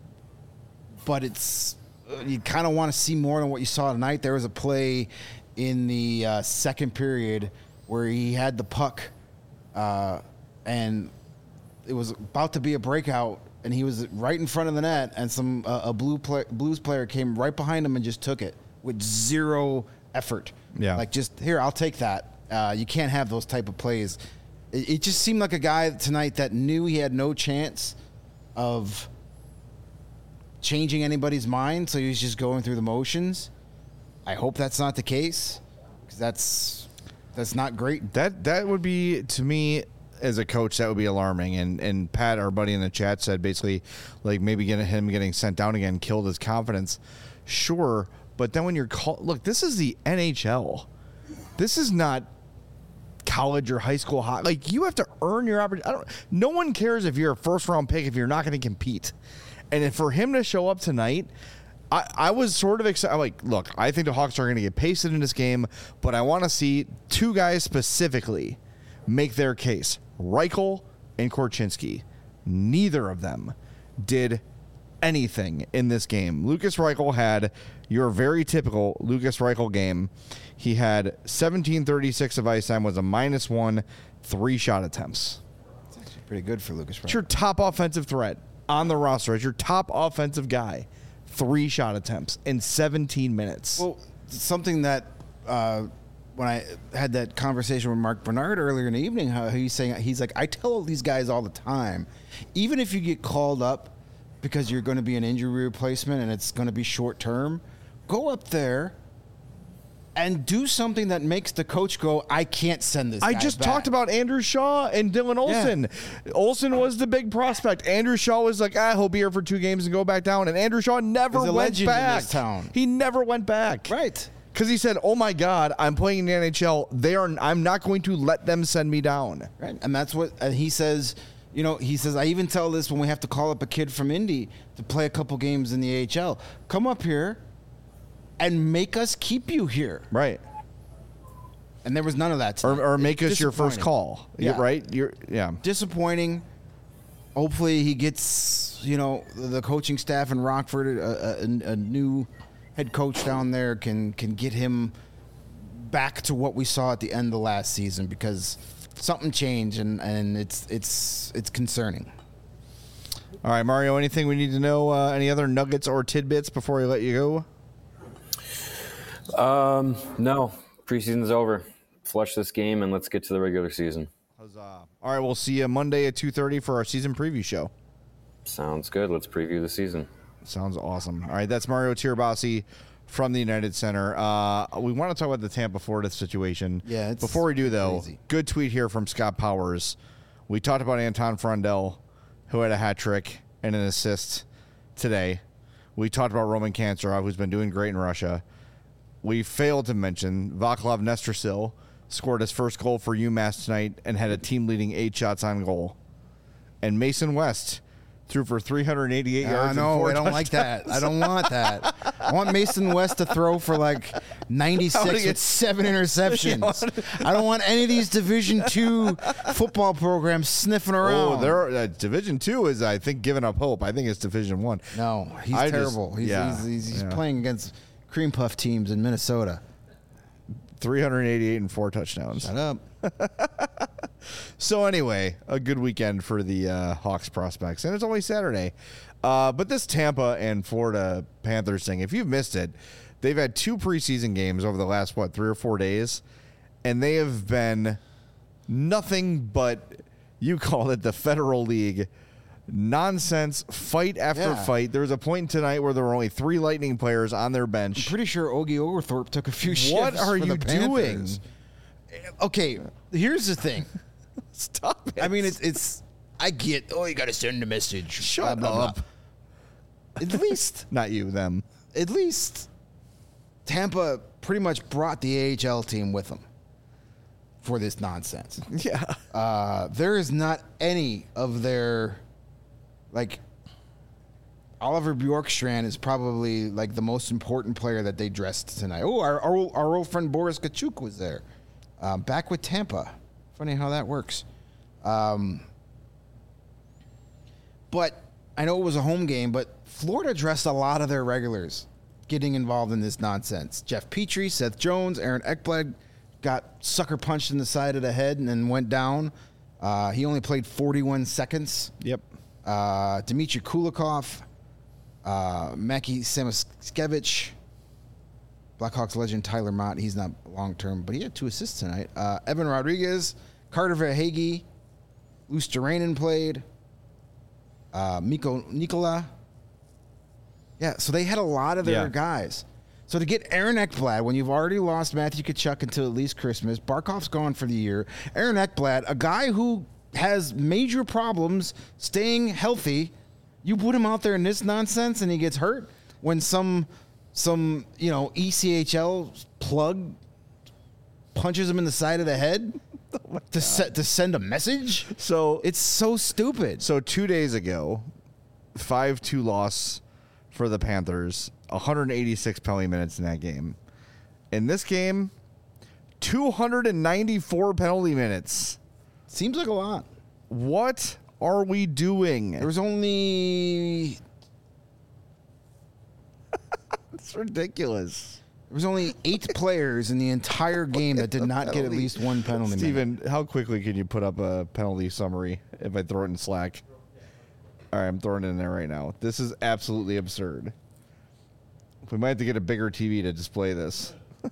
but it's... you kind of want to see more than what you saw tonight. There was a play in the uh, second period where he had the puck uh, and it was about to be a breakout, and he was right in front of the net, and some uh, a blue play, Blues player came right behind him and just took it with zero effort. Yeah. Like, just, here, I'll take that. Uh, you can't have those type of plays. It, it just seemed like a guy tonight that knew he had no chance of changing anybody's mind, so he was just going through the motions. I hope that's not the case, because that's that's not great. That that would be, to me, as a coach, that would be alarming. And and Pat, our buddy in the chat, said basically, like, maybe getting him getting sent down again killed his confidence. Sure, but then when you're called, look, this is the N H L. This is not college or high school hockey. Like, you have to earn your opportunity. I don't. No one cares if you're a first round pick if you're not going to compete. And if for him to show up tonight, I, I was sort of excited. Like, look, I think the Hawks are going to get pasted in this game, but I want to see two guys specifically make their case. Reichel and Korchinski. Neither of them did anything in this game. Lucas Reichel had your very typical Lucas Reichel game. He had seventeen thirty-six of ice time, was a minus one, three shot attempts. It's actually pretty good for Lucas Reichel. It's your top offensive threat on the roster. It's your top offensive guy. Three shot attempts in seventeen minutes. Well, something that uh, when I had that conversation with Mark Bernard earlier in the evening, how he's saying, he's like, I tell these guys all the time, even if you get called up because you're going to be an injury replacement and it's going to be short term, go up there and do something that makes the coach go, I can't send this I guy just back. talked about Andrew Shaw and Dylan Olsen. Yeah. Olsen was the big prospect. Andrew Shaw was like, ah, he'll be here for two games and go back down. And Andrew Shaw never He's a went legend back. in this town. He never went back. Right. Because he said, oh my God, I'm playing in the N H L. They are. I'm not going to let them send me down. Right. And that's what and he says. You know, he says, I even tell this when we have to call up a kid from Indy to play a couple games in the A H L. Come up here and make us keep you here. Right. And there was none of that. Or, or make us your first Disappointing. call. Yeah. You're right? You're yeah. Disappointing. Hopefully he gets, you know, the coaching staff in Rockford, a, a, a new head coach down there can can get him back to what we saw at the end of last season, because something changed and, and it's it's it's concerning. All right, Mario, anything we need to know? Uh, any other nuggets or tidbits before we let you go? Um, no. Preseason's over. Flush this game and let's get to the regular season. Huzzah. All right, we'll see you Monday at two thirty for our season preview show. Sounds good. Let's preview the season. Sounds awesome. All right, that's Mario Tirabassi from the United Center. Uh, we want to talk about the Tampa, Florida situation. Yeah, it's Before we do, though, crazy. Good tweet here from Scott Powers. We talked about Anton Frondel, who had a hat trick and an assist today. We talked about Roman Kancerov, who's been doing great in Russia. We failed to mention Vaclav Nestrasil scored his first goal for UMass tonight and had a team-leading eight shots on goal. And Mason West threw for three hundred eighty-eight yards. I know. and four I don't touchdowns. like that. I don't want that. I want Mason West to throw for like ninety-six with seven interceptions. I don't want any of these Division Two football programs sniffing around. Oh, there. Uh, Division Two is, I think, giving up hope. I think it's Division One. No, he's I just- terrible. he's yeah, he's, he's, he's yeah. playing against cream puff teams in Minnesota. three hundred eighty-eight and four touchdowns. Shut up. So anyway, a good weekend for the uh, Hawks prospects, and it's only Saturday. Uh, but this Tampa and Florida Panthers thing, if you've missed it, they've had two preseason games over the last, what, three or four days, and they have been nothing but, you call it the Federal League, nonsense, fight after Yeah. fight. There was a point tonight where there were only three Lightning players on their bench. I'm pretty sure Ogie Oglethorpe took a few shifts. What are for you the Panthers. doing? Okay, here's the thing. Stop it. I mean, it's it's. I get. Oh, you got to send a message. Shut Blah, blah, up. blah. At least, Not you, them. at least, Tampa pretty much brought the A H L team with them for this nonsense. Yeah. Uh, there is not any of their, like, Oliver Bjorkstrand is probably like the most important player that they dressed tonight. Oh, our our, old- our old friend Boris Kachuk was there, um, back with Tampa. Funny how that works. Um, but I know it was a home game, but Florida dressed a lot of their regulars getting involved in this nonsense. Jeff Petrie, Seth Jones, Aaron Ekblad got sucker punched in the side of the head and then went down. Uh, he only played forty-one seconds. Yep. Uh, Dmitry Kulikov, uh, Maki Samaskevich, Blackhawks legend Tyler Mott. He's not long term, but he had two assists tonight. Uh, Evan Rodriguez, Carter Verhaeghe, Luce Duranen played. Uh, Miko Nikola. Yeah, so they had a lot of their Yeah. guys. So to get Aaron Ekblad, when you've already lost Matthew Tkachuk until at least Christmas, Barkov's gone for the year. Aaron Ekblad, a guy who has major problems staying healthy, you put him out there in this nonsense and he gets hurt when some some you know E C H L plug punches him in the side of the head to set to send a message. So It's so stupid. So two days ago, five two loss for the Panthers, one hundred eighty-six penalty minutes in that game. In this game, two hundred ninety-four penalty minutes. Seems like a lot. What are we doing? There was only It's ridiculous. There was only eight players in the entire game that did not get at least one penalty minute. Steven, how quickly can you put up a penalty summary if I throw it in Slack? All right, I'm throwing it in there right now. This is absolutely absurd. We might have to get a bigger T V to display this.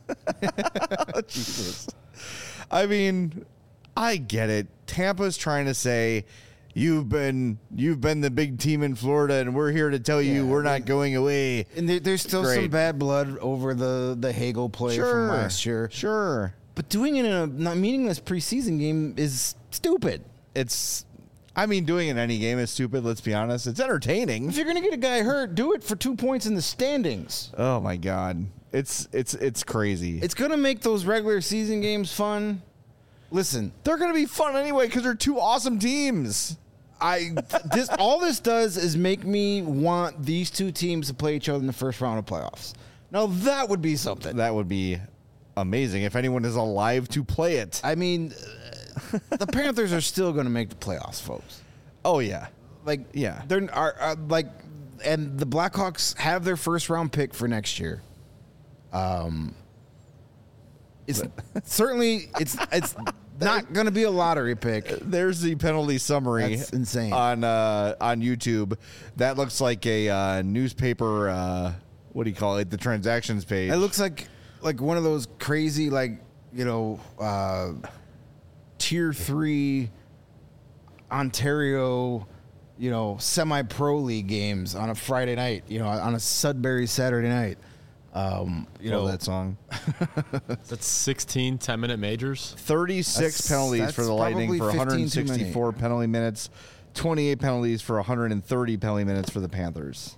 Jesus. I mean, I get it. Tampa's trying to say, You've been you've been the big team in Florida, and we're here to tell you Yeah, we're I not mean, going away. And there, there's still Great. some bad blood over the, the Hagel play Sure, from last year. Sure. But doing it in a not meaningless preseason game is stupid. It's, I mean, doing it in any game is stupid, let's be honest. It's entertaining. If you're going to get a guy hurt, do it for two points in the standings. Oh, my God. It's it's it's crazy. It's going to make those regular season games fun. Listen, they're going to be fun anyway because they're two awesome teams. I this all this does is make me want these two teams to play each other in the first round of playoffs. Now that would be something. That would be amazing if anyone is alive to play it. I mean, uh, the Panthers are still going to make the playoffs, folks. Oh yeah, like yeah, they're are, are like, and the Blackhawks have their first round pick for next year. Um, it's certainly it's it's. Not going to be a lottery pick. There's the penalty summary. That's insane. On uh, on YouTube. That looks like a uh, newspaper, uh, what do you call it, the transactions page. It looks like like one of those crazy, like, you know, uh, tier three Ontario, you know, semi-pro league games on a Friday night, you know, on a Sudbury Saturday night. Um, you Love know that song. That's sixteen ten-minute majors. thirty-six That's- penalties that's for the Lightning for probably one hundred fifteen too many. sixty-four penalty minutes, twenty-eight penalties for one hundred thirty penalty minutes for the Panthers.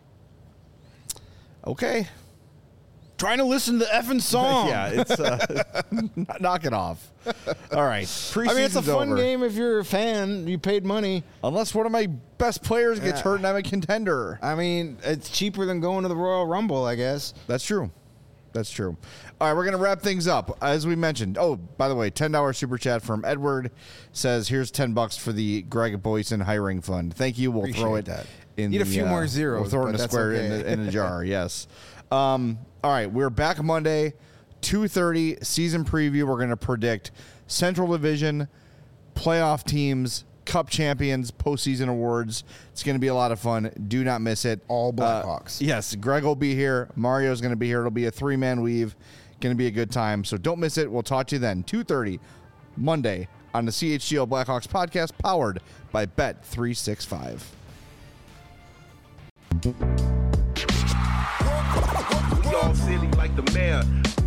Okay. Trying to listen to the effing song. Yeah, it's uh, knock it off. All right, preseason's I mean, it's a fun over. game if you're a fan. You paid money. Unless one of my best players gets Yeah. hurt and I'm a contender. I mean, it's cheaper than going to the Royal Rumble, I guess. That's true. That's true. All right, we're going to wrap things up. As we mentioned, oh, by the way, ten dollars super chat from Edward says, here's ten bucks for the Greg Boyson hiring fund. Thank you. We'll Appreciate throw it that. in Need the, a few uh, more zeros, We'll throw it but in a that's square in, okay. the, in a jar, yes. Um, all right, we're back Monday, two thirty, season preview. We're going to predict Central Division, playoff teams, Cup champions, postseason awards. It's going to be a lot of fun. Do not miss it. All Blackhawks. Uh, yes, Greg will be here. Mario's going to be here. It'll be a three-man weave. Going to be a good time. So don't miss it. We'll talk to you then. two thirty Monday on the C H G O Blackhawks podcast, powered by Bet three sixty-five. We all silly like the mayor.